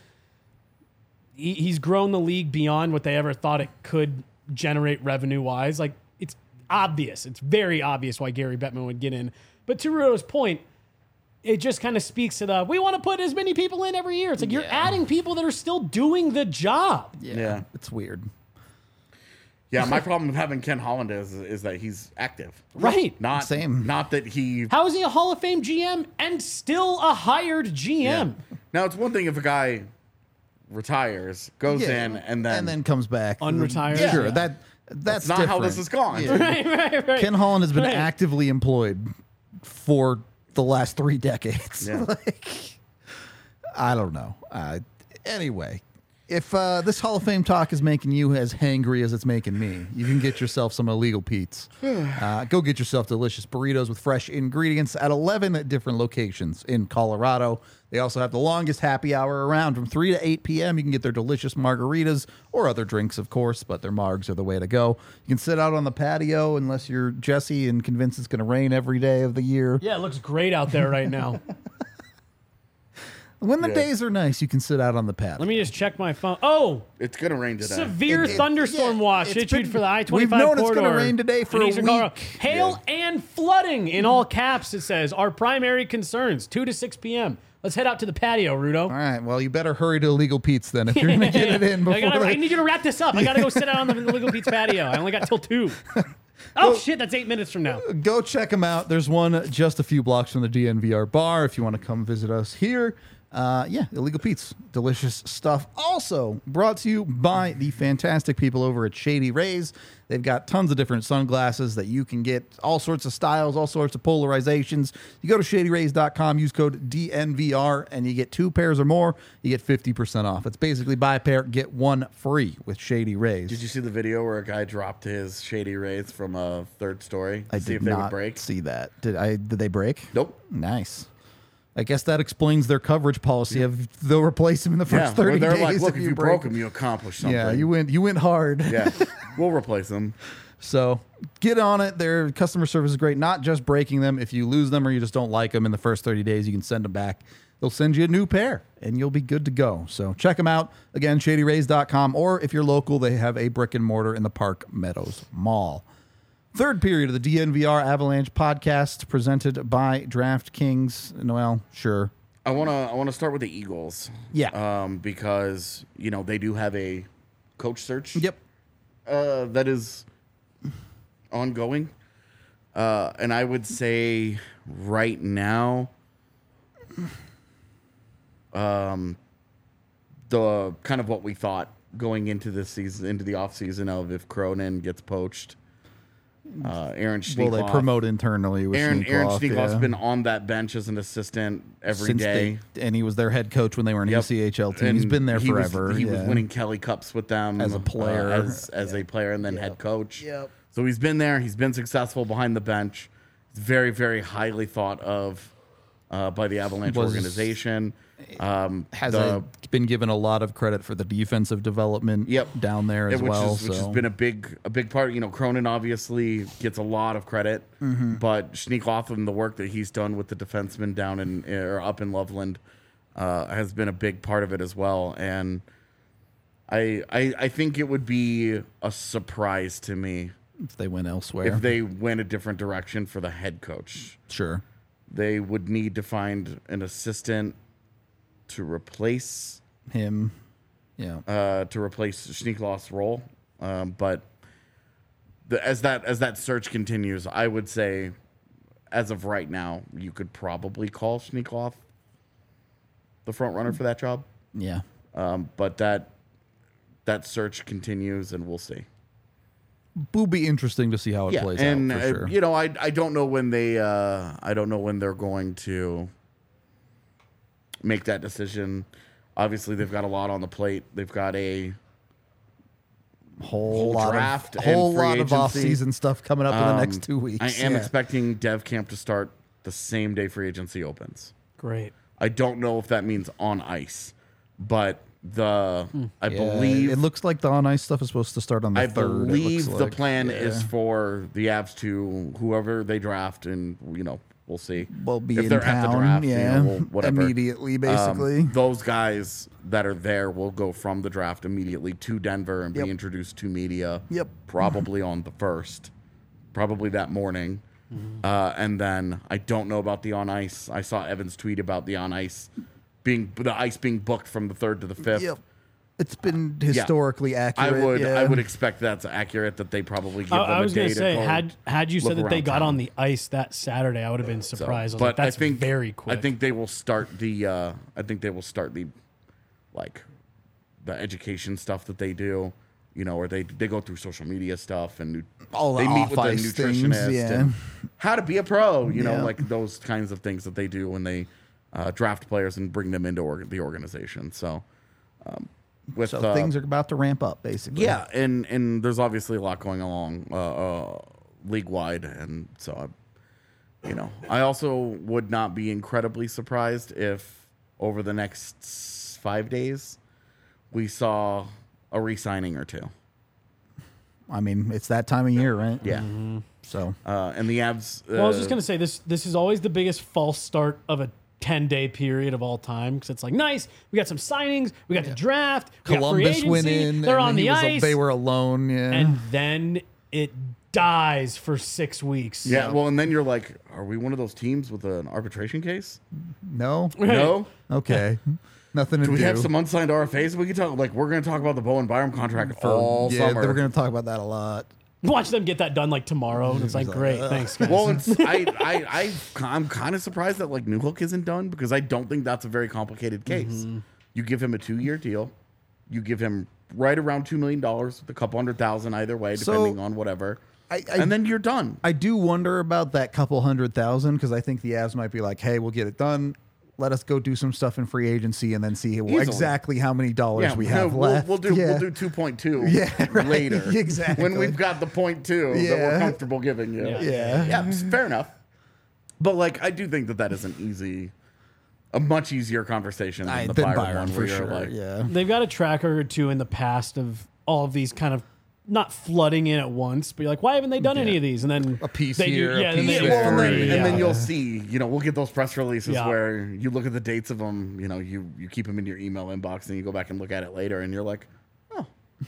He, he's grown the league beyond what they ever thought it could generate revenue wise. Like it's obvious. It's very obvious why Gary Bettman would get in. But to Rudo's point, it just kind of speaks to the, we want to put as many people in every year. It's like you're Yeah. adding people that are still doing the job. Yeah. Yeah. It's weird. Yeah, my problem with having Ken Holland is is that he's active. Right. Not Same. Not that he. How is he a Hall of Fame G M and still a hired G M? Yeah. Now it's one thing if a guy retires, goes Yeah. in, and then and then comes back. Unretired? Yeah. Sure. Yeah. That that's, that's not how this different. has gone. Yeah. Right, right, right. Ken Holland has been Right. actively employed for the last three decades. Yeah. Like, I don't know. Uh, anyway, if uh, this Hall of Fame talk is making you as hangry as it's making me, you can get yourself some Illegal Pete's. Uh, go get yourself delicious burritos with fresh ingredients at eleven different locations in Colorado. They also have the longest happy hour around from three to eight p.m. You can get their delicious margaritas or other drinks, of course, but their margs are the way to go. You can sit out on the patio unless you're Jesse and convinced it's going to rain every day of the year. Yeah, it looks great out there right now. When the Yeah. days are nice, you can sit out on the patio. Let me just check my phone. Oh, It's gonna rain today. severe It- it- thunderstorm yeah, watch it's issued been- for the I we've twenty-five known it's corridor. gonna rain today for in a Eastern Colorado. week. Hail and flooding in all caps, it says. Our primary concerns, two to six p.m. Let's head out to the patio, Rudo. All right. Well, you better hurry to Illegal Pete's then if you're going to get it in before. I, gotta, they- I need you to wrap this up. I got to go sit out on the Illegal Pete's patio. I only got till two. Oh, shit, that's eight minutes from now. Go check them out. There's one just a few blocks from the D N V R bar if you want to come visit us here. Uh, yeah, Illegal Pete's. Delicious stuff. Also brought to you by the fantastic people over at Shady Rays. They've got tons of different sunglasses that you can get, all sorts of styles, all sorts of polarizations. You go to shady rays dot com, use code D N V R, and you get two pairs or more, you get fifty percent off. It's basically buy a pair, get one free with Shady Rays. Did you see the video where a guy dropped his Shady Rays from a third story to I see did if they not would break? see that. Did I? Did they break? Nope. Nice. I guess that explains their coverage policy of they'll replace him in the first Yeah, where thirty they're days. like, look, if you broke break them, you accomplished something. Yeah, you went. You went hard. Yeah, we'll replace them. So get on it. Their customer service is great. Not just breaking them. If you lose them or you just don't like them in the first thirty days, you can send them back. They'll send you a new pair, and you'll be good to go. So check them out. Again, shady rays dot com, or if you're local, they have a brick and mortar in the Park Meadows Mall. Third period of the D N V R Avalanche podcast presented by DraftKings. Well, sure. I wanna I wanna start with the Eagles. Yeah. Um, because you know they do have a coach search. Yep. Uh, that is ongoing. Uh, and I would say right now, um, the kind of what we thought going into this season, into the offseason of if Cronin gets poached, uh, Aaron Schneekloff. Well, they promote internally with Aaron, Aaron Schneekloff, Schneekloff's yeah. been on that bench as an assistant every Since day. they- and he was their head coach when they were an Yep. E C H L team. He's And been there he was- forever. he yeah. was winning Kelly Cups with them As a uh, player. as as a player, and then head coach. Yep. So he's been there. He's been successful behind the bench. He's very, very highly thought of uh, by the Avalanche Was- organization. Um, Has the, a, been given a lot of credit for the defensive development Yep. down there as which well. is, which so. has been a big a big part. You know, Cronin obviously gets a lot of credit, Mm-hmm. but Schneekloff and the work that he's done with the defensemen down in or up in Loveland uh, has been a big part of it as well. And I, I I think it would be a surprise to me if they went elsewhere. if they went a different direction for the head coach. sure. They would need to find an assistant to replace Him. Yeah. uh, to replace Schneekloff's role. Um, but the, as that as that search continues, I would say, as of right now, you could probably call Schneekloff the front runner for that job. yeah. Um, but that that search continues, and we'll see. Will be interesting to see how it Yeah, plays and out for uh, sure. you know, I I don't know when they uh, I don't know when they're going to make that decision. Obviously, they've got a lot on the plate. They've got a whole, whole lot draft of and whole free lot of agency. off-season stuff coming up in the next Um, two weeks. I am yeah. expecting Dev Camp to start the same day free agency opens. Great. I don't know if that means on ice, but the I Yeah, believe it looks like the on ice stuff is supposed to start on the I third. it believe looks the like. plan Yeah. is for the Avs to whoever they draft, and you know we'll see. Well, be if in they're town, at the draft, you yeah, know, we'll- whatever. immediately, Um, basically. those guys that are there will go from the draft immediately to Denver and Yep. be introduced to media. Yep. Probably on the first, probably that morning. Uh, and then I don't know about the on ice. I saw Evan's tweet about the on ice being the ice being booked from the third to the fifth. Yep. It's been historically I accurate. would yeah. I would expect that's accurate that they probably give I, them I was a day gonna to say go had had you look said that they around got town. on the ice that Saturday, I would have been So, surprised. I was but like, that's I think very quick. I think they will start the. Uh, I think they will start the, like, the education stuff that they do. You know, where they they go through social media stuff and nu- All the they meet with the off-ice things, nutritionist yeah. and how to be a pro. You know, Yeah. like those kinds of things that they do when they uh, draft players and bring them into org- the organization. So, um, with So uh, things are about to ramp up, basically. yeah, and and there's obviously a lot going along uh, uh, league wide, and so I, you know, I also would not be incredibly surprised if over the next s- five days we saw a re-signing or two. I mean, it's that time of year, right? Yeah, So uh, and the Avs. Uh, well, I was just gonna say this. This is always the biggest false start of a ten day period of all time because it's like nice. We got some signings. We got the draft. We got free Columbus agency. went in. They're and on he the was a- ice, they were alone. Yeah. and then it dies for six weeks. Yeah, well, and then you're like, are we one of those teams with an arbitration case? no. No. Okay. Nothing to Do do. we have some unsigned R F As? We can talk. Like, we're going to talk about the Bowen Byram contract For- all yeah, summer. we're going to talk about that a lot. Watch them get that done like tomorrow. And it's like, great, thanks, guys. Well, it's, I, I, I, I'm kind of surprised that like Newhook isn't done because I don't think that's a very complicated case. Mm-hmm. You give him a two-year deal, you give him right around two million dollars, with a couple hundred thousand either way, So, depending on whatever, I- I- and then you're done. I do wonder about that couple hundred thousand because I think the Avs might be like, hey, we'll get it done. Let us go do some stuff in free agency and then see well, Easily. exactly how many dollars we have we'll, left. We'll do yeah. we'll do two point two Yeah, right. later. Exactly. When we've got the point two that Yeah. we're comfortable giving you. Yeah. Yeah. Yeah, fair enough. But like, I do think that that is an easy, a much easier conversation than I, the than Byron, Byron one, for where you're sure. like, yeah. They've got a track record too in the past of all of these kind of not flooding in at once, but you're like, why haven't they done any of these? And then A piece they here, do, a yeah, then piece they Yeah, well, and then, Three, and then yeah. you'll see, you know, we'll get those press releases Yeah. where you look at the dates of them, you know, you, you keep them in your email inbox and you go back and look at it later and you're like, oh,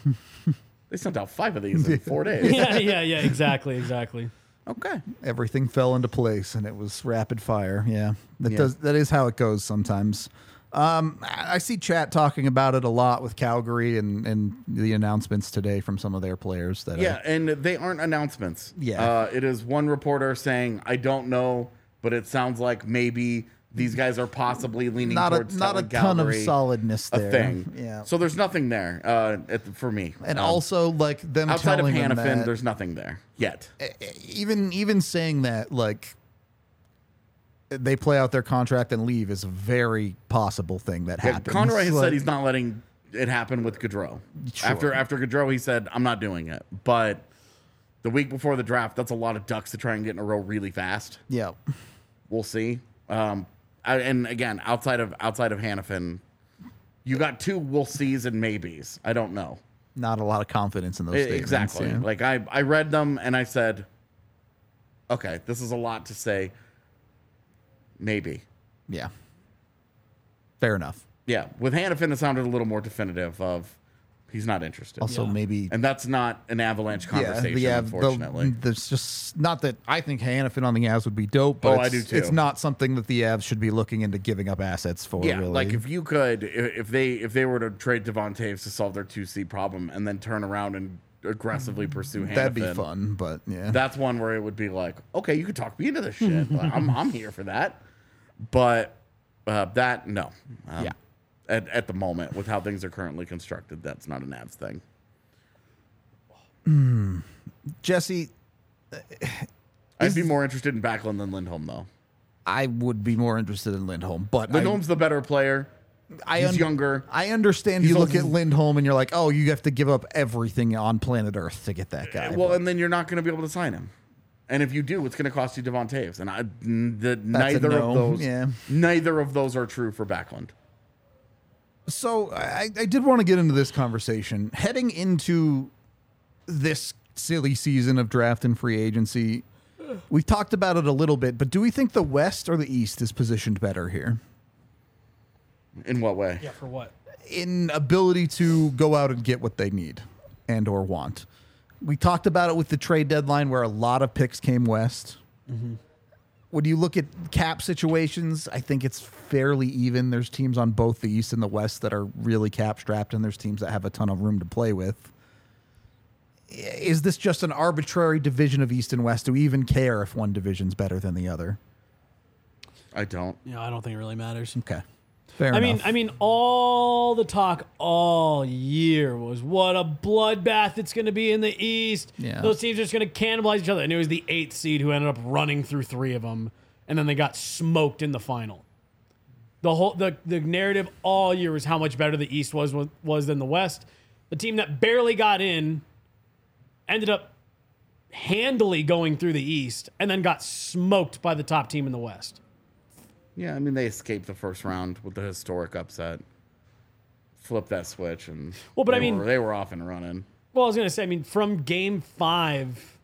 they sent out five of these in four days. yeah, yeah, yeah, exactly, exactly. Okay. Everything fell into place and it was rapid fire. Yeah. That Yeah. does that is how it goes sometimes. Um, I I see chat talking about it a lot with Calgary and, and the announcements today from some of their players that Yeah, are, and they aren't announcements. Yeah. Uh, it is one reporter saying, I don't know, but it sounds like maybe these guys are possibly leaning not a towards not a telling ton of Calgary solidness a there. thing. Yeah. So there's nothing there uh, at the, for me. And Um, also like them outside of telling them Hannafin, that, there's nothing there yet. even even saying that like they play out their contract and leave is a very possible thing that Yeah, happens. Conroy has Like, said he's not letting it happen with Gaudreau. Sure. After after Gaudreau, he said, I'm not doing it. But the week before the draft, that's a lot of ducks to try and get in a row really fast. yeah. We'll see. Um, I, and again, outside of outside of Hannafin, you got two we'll sees and maybes. I don't know. Not a lot of confidence in those E- statements. exactly. yeah. Like I, I read them and I said, okay, this is a lot to say. Maybe. Yeah. Fair enough. Yeah. With Hannafin, it sounded a little more definitive of he's not interested. Also, Yeah. maybe And that's not an Avalanche conversation, yeah, unfortunately. The, there's just not that I think Hannafin on the Avs would be dope, but Oh, I it's, do too. it's not something that the Avs should be looking into giving up assets for. yeah, really. like if you could, i- if they if they were to trade Devon Taves to solve their two C problem and then turn around and aggressively pursue Hannafin, that'd be fun. But yeah, that's one where it would be like, okay, you could talk me into this shit. Like, I'm I'm here for that. But uh, that no, um, Yeah. At at the moment, with how things are currently constructed, that's not an Avs thing. Jesse, I'd be more interested in Backlund than Lindholm, though. I would be more interested in Lindholm, but I- Lindholm's the better player. I He's un- younger. I understand He's you look also- at Lindholm and you're like, oh, you have to give up everything on planet Earth to get that guy. Well, but- and then you're not going to be able to sign him. And if you do, it's going to cost you Devon Taves. And I, the, neither no, of those, yeah. neither of those are true for Backlund. So I, I did want to get into this conversation. Heading into this silly season of draft and free agency, we talked about it a little bit, but do we think the West or the East is positioned better here? In what way? Yeah, for what? In ability to go out and get what they need and or want. We talked about it with the trade deadline where a lot of picks came west. Mm-hmm. When you look at cap situations, I think it's fairly even. There's teams on both the East and the West that are really cap strapped, and there's teams that have a ton of room to play with. Is this just an arbitrary division of East and West? Do we even care if one division's better than the other? I don't. Yeah, I don't think it really matters. Okay. Fair I enough. mean, I mean, all the talk all year was what a bloodbath it's going to be in the East. Yeah. Those teams are just going to cannibalize each other. And it was the eighth seed who ended up running through three of them, and then they got smoked in the final. The whole the, the narrative all year was how much better the East was was than the West. The team that barely got in ended up handily going through the East, and then got smoked by the top team in the West. Yeah, I mean, they escaped the first round with the historic upset. Flip that switch, and Well, but they I mean- were, they were off and running. Well, I was going to say, I mean, from game five,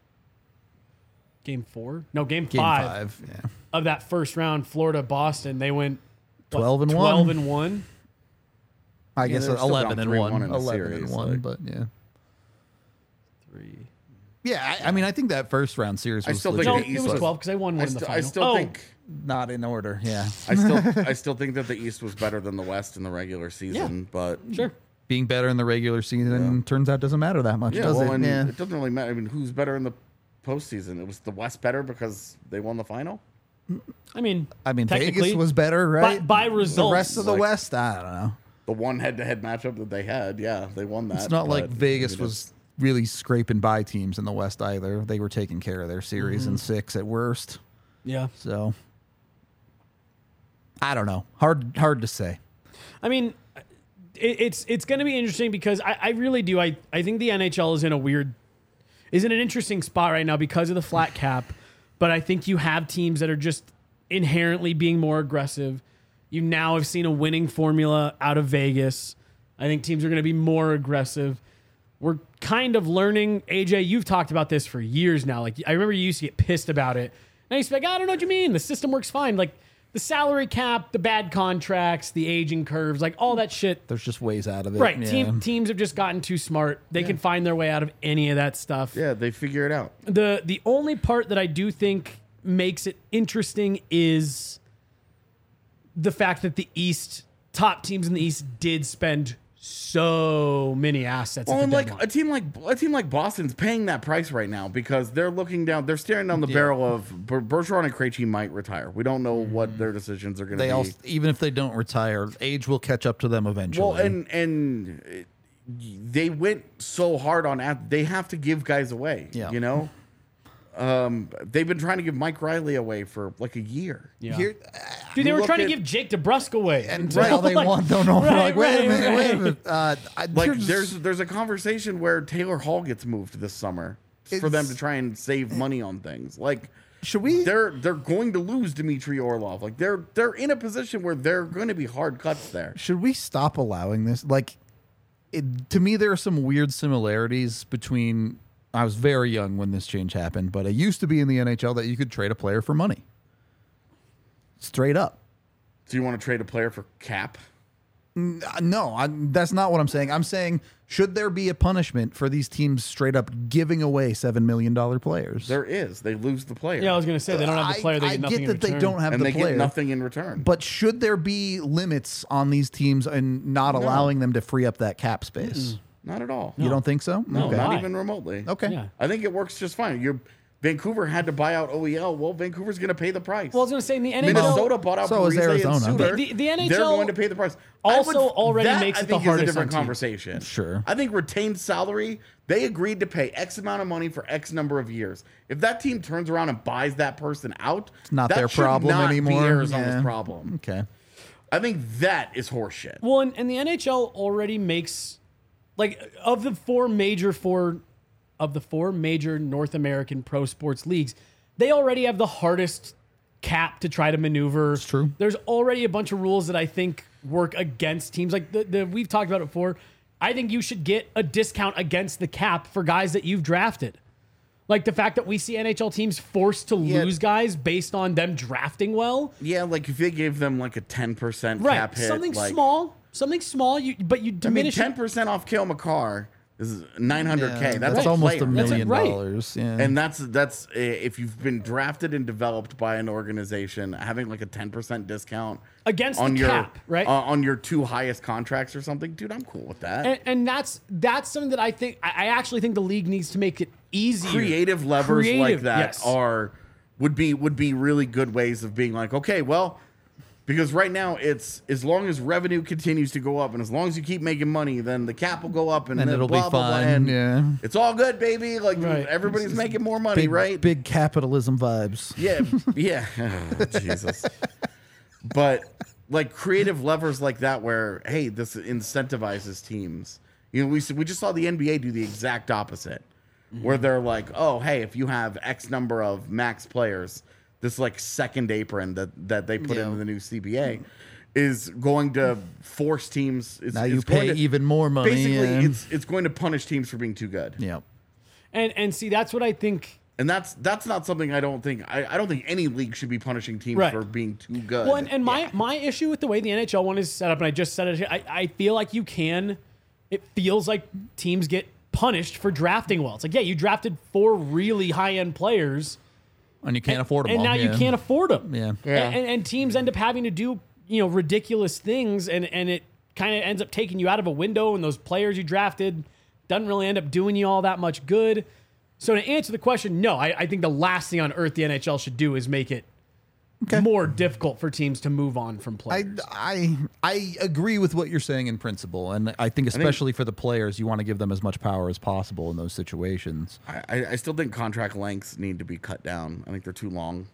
game four? No, game, Game five, five. Yeah. of that first round, Florida Boston, they went what, twelve and twelve one. and one. I Yeah, guess they were still eleven down and three one. one in the eleven series, and one, like- but yeah. Three. Yeah, I, I mean, I think that first round series I was still think No, the it East was was- twelve because they won one I, in the st- final. I still oh, think not in order. Yeah. I still I still think that the East was better than the West in the regular season, but sure. Being better in the regular season turns out doesn't matter that much, yeah, does well, it? and Yeah. it doesn't really matter. I mean, who's better in the postseason? It was the West better because they won the final. I mean, I mean, technically, Vegas was better, right? by results. The rest of the Like- West, I don't know. The one head-to-head matchup that they had, yeah, they won that. It's not like but, Vegas I mean, was really scraping by teams in the West either. They were taking care of their series Mm-hmm. in six at worst. yeah. So I don't know. Hard, hard to say. I mean, it, it's it's going to be interesting because I, I really do. I, I think the N H L is in a weird, is in an interesting spot right now because of the flat cap. But I think you have teams that are just inherently being more aggressive. You now have seen a winning formula out of Vegas. I think teams are going to be more aggressive. We're kind of learning. A J, you've talked about this for years now. Like, I remember you used to get pissed about it. And I used to be like, I don't know what you mean. The system works fine. Like, the salary cap, the bad contracts, the aging curves, like all that shit. There's just ways out of it. Right. Yeah. Team, teams have just gotten too smart. They can find their way out of any of that stuff. Yeah, they figure it out. The the only part that I do think makes it interesting is the fact that the East, top teams in the East did spend so many assets. Well, at and the like deadline. a team like a team like Boston's paying that price right now because they're looking down, they're staring down the Yeah. barrel of Ber- Bergeron and Krejci might retire. We don't know what their decisions are going to They be. all, even if they don't retire, age will catch up to them eventually. Well, and and it- they went so hard on at they have to give guys away. Yeah. You know, um, they've been trying to give Mike Riley away for like a year. yeah. Here, Dude, they you were look trying at- to give Jake DeBrusque away. and until, now they like- want, don't know. Right, like, wait right, a minute, right. wait a minute. Uh, I, Like there's there's a conversation where Taylor Hall gets moved this summer for them It's- to try and save money on things. Like should we? they're they're going to lose Dmitry Orlov. Like they're they're in a position where they're going to be hard cuts there. Should we stop allowing this? Like, it, to me, there are some weird similarities between. I was very young when this change happened, but it used to be in the N H L that you could trade a player for money. Straight up. So you want to trade a player for cap? Uh, No, I, that's not what I'm saying. I'm saying, should there be a punishment for these teams straight up giving away seven million dollars players? There is. They lose the player. Yeah, I was going to say, they don't have the player. They I, get I nothing get in that they return. don't have and the they player. get nothing in return. But should there be limits on these teams and not allowing them to free up that cap space? Not at all. You don't think so? No, Okay. not Why? even remotely. Okay. Yeah. I think it works just fine. You Vancouver had to buy out O E L. Well, Vancouver's going to pay the price. Well, I was going to say, in the N H L, Minnesota bought out So is Parise Arizona. and Suter. The- the- the N H L They're going to pay the price. I also already that, makes I it the think, hardest is a different on teams. conversation. Sure. I think retained salary, they agreed to pay X amount of money for X number of years. If that team turns around and buys that person out, It's not that their should problem not anymore. Be Arizona's Yeah. problem. Okay. I think that is horseshit. Well, and, and the N H L already makes, like, of the four major four of the four major North American pro sports leagues, they already have the hardest cap to try to maneuver. It's true. There's already a bunch of rules that I think work against teams. Like the, the we've talked about it before. I think you should get a discount against the cap for guys that you've drafted. Like the fact that we see N H L teams forced to Yeah. lose guys based on them drafting well. Yeah, like if they gave them like a ten percent Right. cap hit. Something like, small. Something small, you but you I mean, diminish ten it. percent off Kale McCarr is nine hundred K. Yeah, That's, that's a almost player. a million right. dollars. Yeah. And that's that's uh, if you've been drafted and developed by an organization, having like a ten percent discount Against on the your cap, right? uh, on your two highest contracts or something, dude, I'm cool with that. And, and that's that's something that I think I I actually think the league needs to make it easier. Creative levers like Creative, that yes. are would be would be really good ways of being like, okay, well, because right now it's as long as revenue continues to go up and as long as you keep making money, then the cap will go up and, And then it'll be blah, blah, blah, fine, and yeah. it's all good, baby. Like Right. everybody's making more money, big, right? big capitalism vibes. Yeah, yeah. Oh, Jesus. But like creative levers like that, where hey, this incentivizes teams. You know, we we just saw the N B A do the exact opposite, where they're like, oh, hey, if you have X number of max players, this like second apron that that they put Yeah. into the new C B A is going to force teams. It's, Now you it's going pay to- even more money. Basically, yeah. it's it's going to punish teams for being too good. yeah. And and see that's what I think. And that's that's not something I don't think I, I don't think any league should be punishing teams Right. for being too good. Well, and, and my my issue with the way the N H L one is set up, and I just said it, I, I feel like you can. It feels like teams get punished for drafting well. It's like, yeah, you drafted four really high end players, And you can't afford them and all. now yeah. you can't afford them. Yeah. Yeah. And, and, and teams end up having to do you know ridiculous things, and and it kind of ends up taking you out of a window, and those players you drafted doesn't really end up doing you all that much good. So to answer the question, no, I, I think the last thing on earth the N H L should do is make it Okay. more difficult for teams to move on from I, players. I I agree with what you're saying in principle, and I think especially for the players, you want to give them as much power as possible in those situations. I, I- I still think contract lengths need to be cut down. I think they're too long.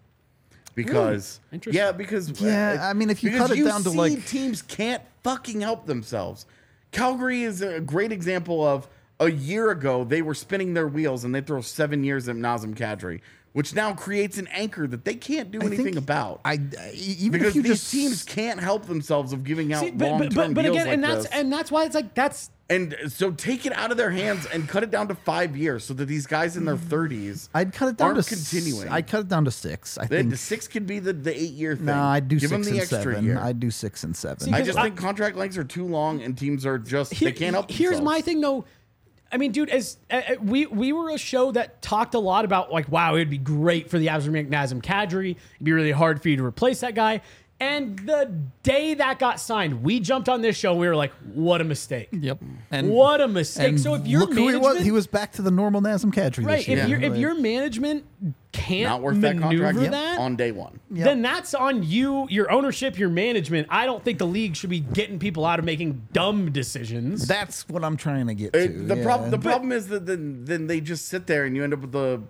Because Interesting. yeah, because Yeah, I mean, if you because cut it down to, see like- teams can't fucking help themselves. Calgary is a great example of a year ago they were spinning their wheels and they throw seven years at Nazem Kadri, which now creates an anchor that they can't do I anything think about. I even because if you these just teams can't help themselves of giving out See, but, long but, term but, but deals again, like and that's this. and that's why it's like that's And so take it out of their hands and cut it down to five years so that these guys in their thirties I'd cut it down aren't to s- continuing. I'd cut it down to six. I the, think. the six could be the, the eight year thing. No, I'd do Give them six the and extra seven. year. I'd do six and seven. See, I because just I- think contract lengths are too long and teams are just Here- they can't help Here's themselves. my thing, though. I mean, dude, as uh, uh, we we were a show that talked a lot about like, wow, it'd be great for the Avs to make Nazem Kadri. It'd be really hard for you to replace that guy. And the day that got signed, we jumped on this show and we were like, what a mistake. Yep. And What a mistake. and So if your look who he was, management- he was back to the normal Nazem Kadri Right. this year. If, your if Like, your management can't Not worth that maneuver contract that, on day one. Yep. then that's on you, your ownership, your management. I don't think the league should be getting people out of making dumb decisions. that's what I'm trying to get to. It- the yeah. problem the problem is that then then they just sit there and you end up with the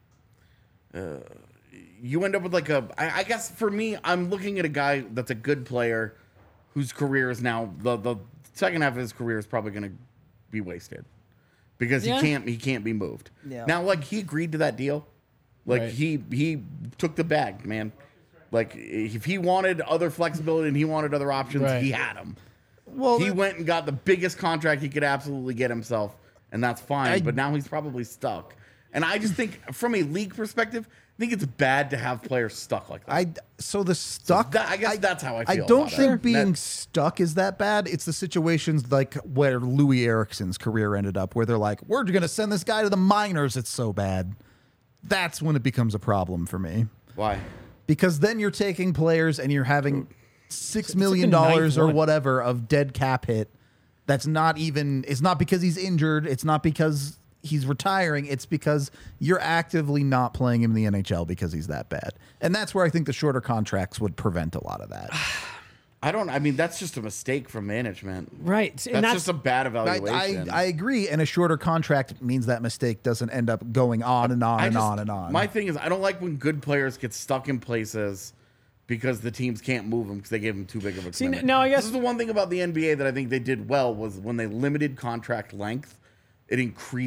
uh, you end up with like a I, I guess for me I'm looking at a guy that's a good player whose career is now the the second half of his career is probably going to be wasted because Yeah. he can't he can't be moved. Yeah. Now like he agreed to that deal. Like Right. he he took the bag, man. Like if he wanted other flexibility and he wanted other options, Right. he had them. well, He that- went and got the biggest contract he could absolutely get himself, and that's fine. I- but now he's probably stuck. And I just think, from a league perspective, I think it's bad to have players stuck like that. I so the stuck. that- I guess that's how I I feel don't about it. think being That- stuck is that bad. It's the situations like where Louis Erickson's career ended up, where they're like, "We're going to send this guy to the minors." It's so bad. That's when it becomes a problem for me, Why? because then you're taking players and you're having six like million the ninth dollars or one. whatever of dead cap hit. That's not even. It's not because he's injured. It's not because he's retiring. It's because you're actively not playing him in the N H L because he's that bad. And that's where I think the shorter contracts would prevent a lot of that. I don't. I mean, that's just a mistake from management. right. That's, And that's, just a bad I, evaluation. I, I agree. And a shorter contract means that mistake doesn't end up going on and on I and just- on and on. My thing is, I don't like when good players get stuck in places because the teams can't move them because they gave them too big of a See, commitment. now I guess- this is the one thing about the N B A that I think they did well was when they limited contract length, it increased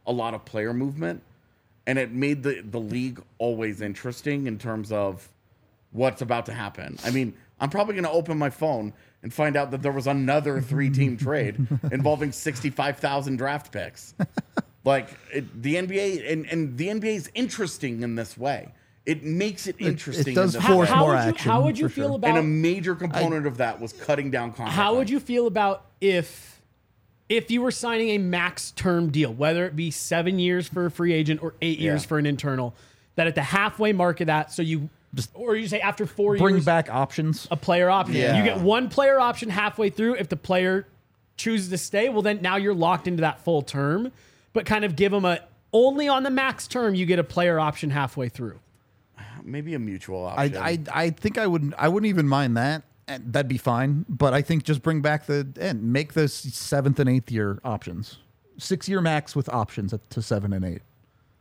a lot of player movement, and it made the, the league always interesting in terms of what's about to happen. I mean, I'm probably going to open my phone and find out that there was another three-team trade involving sixty-five thousand draft picks. Like, it, the N B A, and, and the N B A is interesting in this way. It makes it interesting. It does in this force way. how more would you, action. How would you for feel sure. about And a major component of that was cutting down contract. how would length. you feel about if if you were signing a max term deal, whether it be seven years for a free agent or eight years Yeah. for an internal, that at the halfway mark of that, so you just or you say after four Bring years back options. a player option. Yeah. You get one player option halfway through. If the player chooses to stay, well then now you're locked into that full term. But kind of give them a only on the max term you get a player option halfway through. Maybe a mutual I, option. I I think I wouldn't I wouldn't even mind that. And that'd be fine. But I think just bring back the and make those seventh and eighth year options. Six year max with options at, to seven and eight.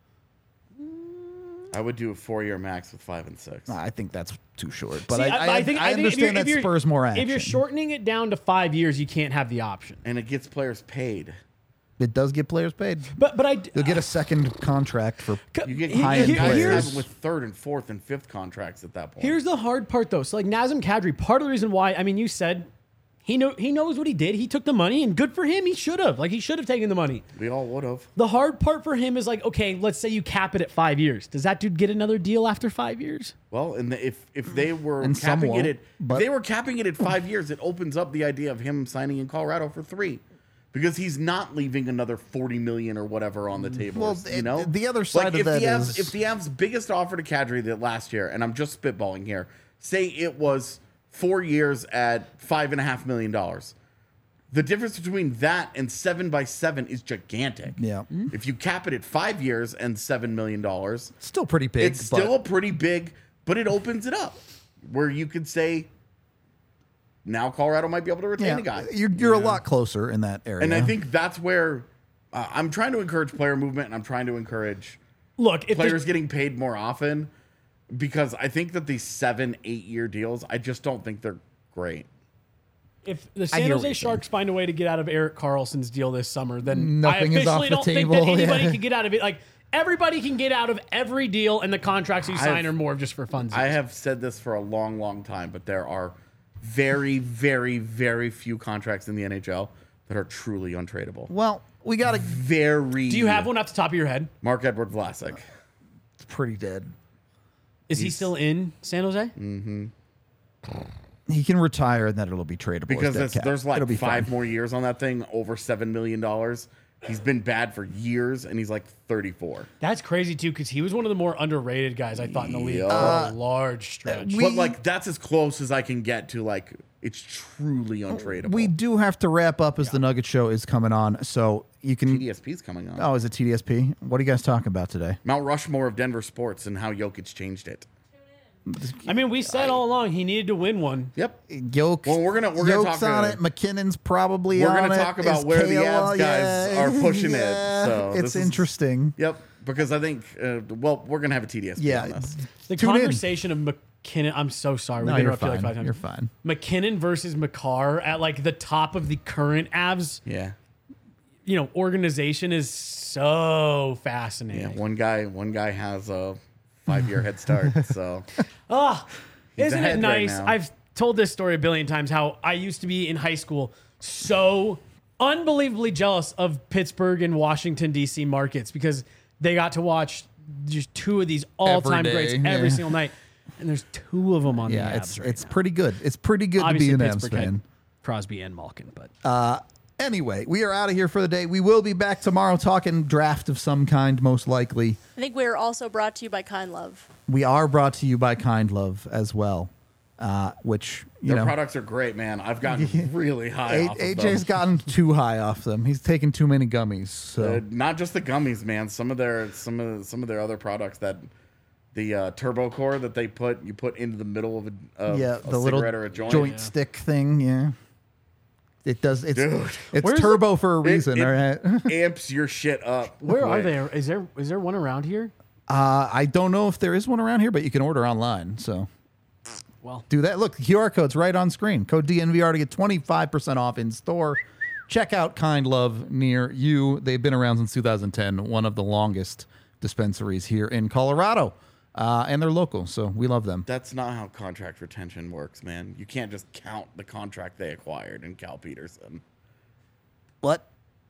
I would do a four-year max with five and six. I think that's too short. But See, I, I, I, think, I think if you're- understand if that you're- spurs more action. If you're shortening it down to five years, you can't have the option. And it gets players paid. It does get players paid. But but I You'll get a second contract for You get He- high-end he- guys players. have with third and fourth and fifth contracts at that point. Here's the hard part, though. So, like Nazem Kadri, part of the reason why, I mean, you said he know he knows what he did. He took the money, and good for him. He should have. Like, he should have taken the money. we all would have. The hard part for him is like, okay, let's say you cap it at five years. Does that dude get another deal after five years? Well, and the, if if they were And some capping it won't, at but- if they were capping it at five years, it opens up the idea of him signing in Colorado for three. Because he's not leaving another forty million or whatever on the table. Well, you know, the other side like of if that the Avs, is- if the Avs' biggest offer to Kadri that last year, and I'm just spitballing here, say it was four years at five and a half million dollars. The difference between that and seven by seven is gigantic. Yeah. If you cap it at five years and seven million dollars, still pretty big. it's still a but pretty big, but it opens it up where you could say now Colorado might be able to retain yeah, a guy. you're you're a lot closer in that area. And I think that's where uh, I'm trying to encourage player movement, and I'm trying to encourage Look, if players there's- getting paid more often, because I think that these seven, eight year deals, I just don't think they're great. if the I San hear what Jose you're Sharks find a way to get out of Eric Carlson's deal this summer, then I Nothing is officially off the don't table, think that anybody yeah. can get out of it. Like everybody can get out of every deal, and the contracts you sign I've- are more just for fun. I have said this for a long, long time, but there are very, very, very few contracts in the N H L that are truly untradeable. well, we got to. Very. Do you have one off the top of your head? Mark Edward Vlasic. It's pretty dead. Is he still in San Jose? He can retire and then it'll be tradable. Because as dead there's, cap. there's like It'll be five fine. more years on that thing, over seven million dollars. He's been bad for years, and he's like thirty-four. That's crazy too, because he was one of the more underrated guys I thought in the league Yeah. for a large stretch. we- But like that's as close as I can get to like it's truly untradeable. We do have to wrap up as the Nugget Show is coming on, so you can. T D S P's coming on. Oh, is it T D S P? What are you guys talking about today? Mount Rushmore of Denver sports and how Jokic changed it. I mean, we said all along he needed to win one. Yep. Yoke. Well, we're gonna- we're gonna Yoke's talk, on uh, it. McKinnon's probably We're on gonna it. talk about Is where the Kayla- Avs guys are pushing it, yeah. so it's this is- interesting. Yep. Because I think uh, well, we're gonna have a T D S P Yeah. on this. The Tune in. conversation of McKinnon. I'm so sorry. No, we you're interrupted you fine. like five times. You're fine. McKinnon versus McCarr at like the top of the current Avs, Yeah. you know, organization is so fascinating. Yeah. One guy one guy has a five year head start. So Isn't it ahead right nice? now. I've told this story a billion times how I used to be in high school so unbelievably jealous of Pittsburgh and Washington, D C markets because they got to watch just two of these all time Every greats day, every yeah. single night. And there's two of them on Yeah, the Avs it's right it's now. pretty good. It's pretty good Obviously, to be an Avs Pittsburgh had fan. Crosby and Malkin, but Uh, anyway, we are out of here for the day. We will be back tomorrow talking draft of some kind, most likely. I think we're also brought to you by Kind Love. We are brought to you by Kind Love as well, uh, which you their know. products are great, man. I've gotten really high A- off of AJ's them. gotten too high off them. He's taken too many gummies. So Uh, not just the gummies, man. Some of their some of some of their other products that the uh, turbo core that they put you put into the middle of a, of yeah, a the little cigarette or a joint. Yeah. stick thing. Yeah, it does. It's Dude. it's Where's turbo for a It- reason. it all right. amps your shit up. where are Like, they? Is there is there one around here? Uh, I don't know if there is one around here, but you can order online. So Well, do that. Look, the Q R code's right on screen. Code D N V R to get twenty-five percent off in store. check out Kind Love near you. They've been around since two thousand ten, one of the longest dispensaries here in Colorado. Uh, and they're local, so we love them. That's not how contract retention works, man. You can't just count the contract they acquired in Cal Peterson. What?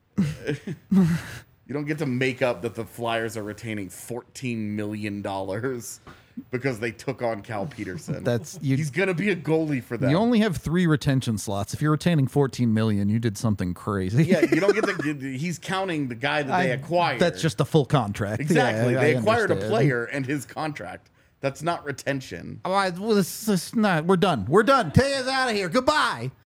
You don't get to make up that the Flyers are retaining fourteen million dollars because they took on Cal Peterson. That's you. He's going to be a goalie for them. You only have three retention slots. If you're retaining fourteen million, you did something crazy. Yeah, you don't get to. He's counting the guy that they I- acquired. That's just a full contract. exactly. Yeah, I- they I acquired a understand. player and his contract. That's not retention. All right, well, this is not. We're done. We're done. Take us out of here. Goodbye.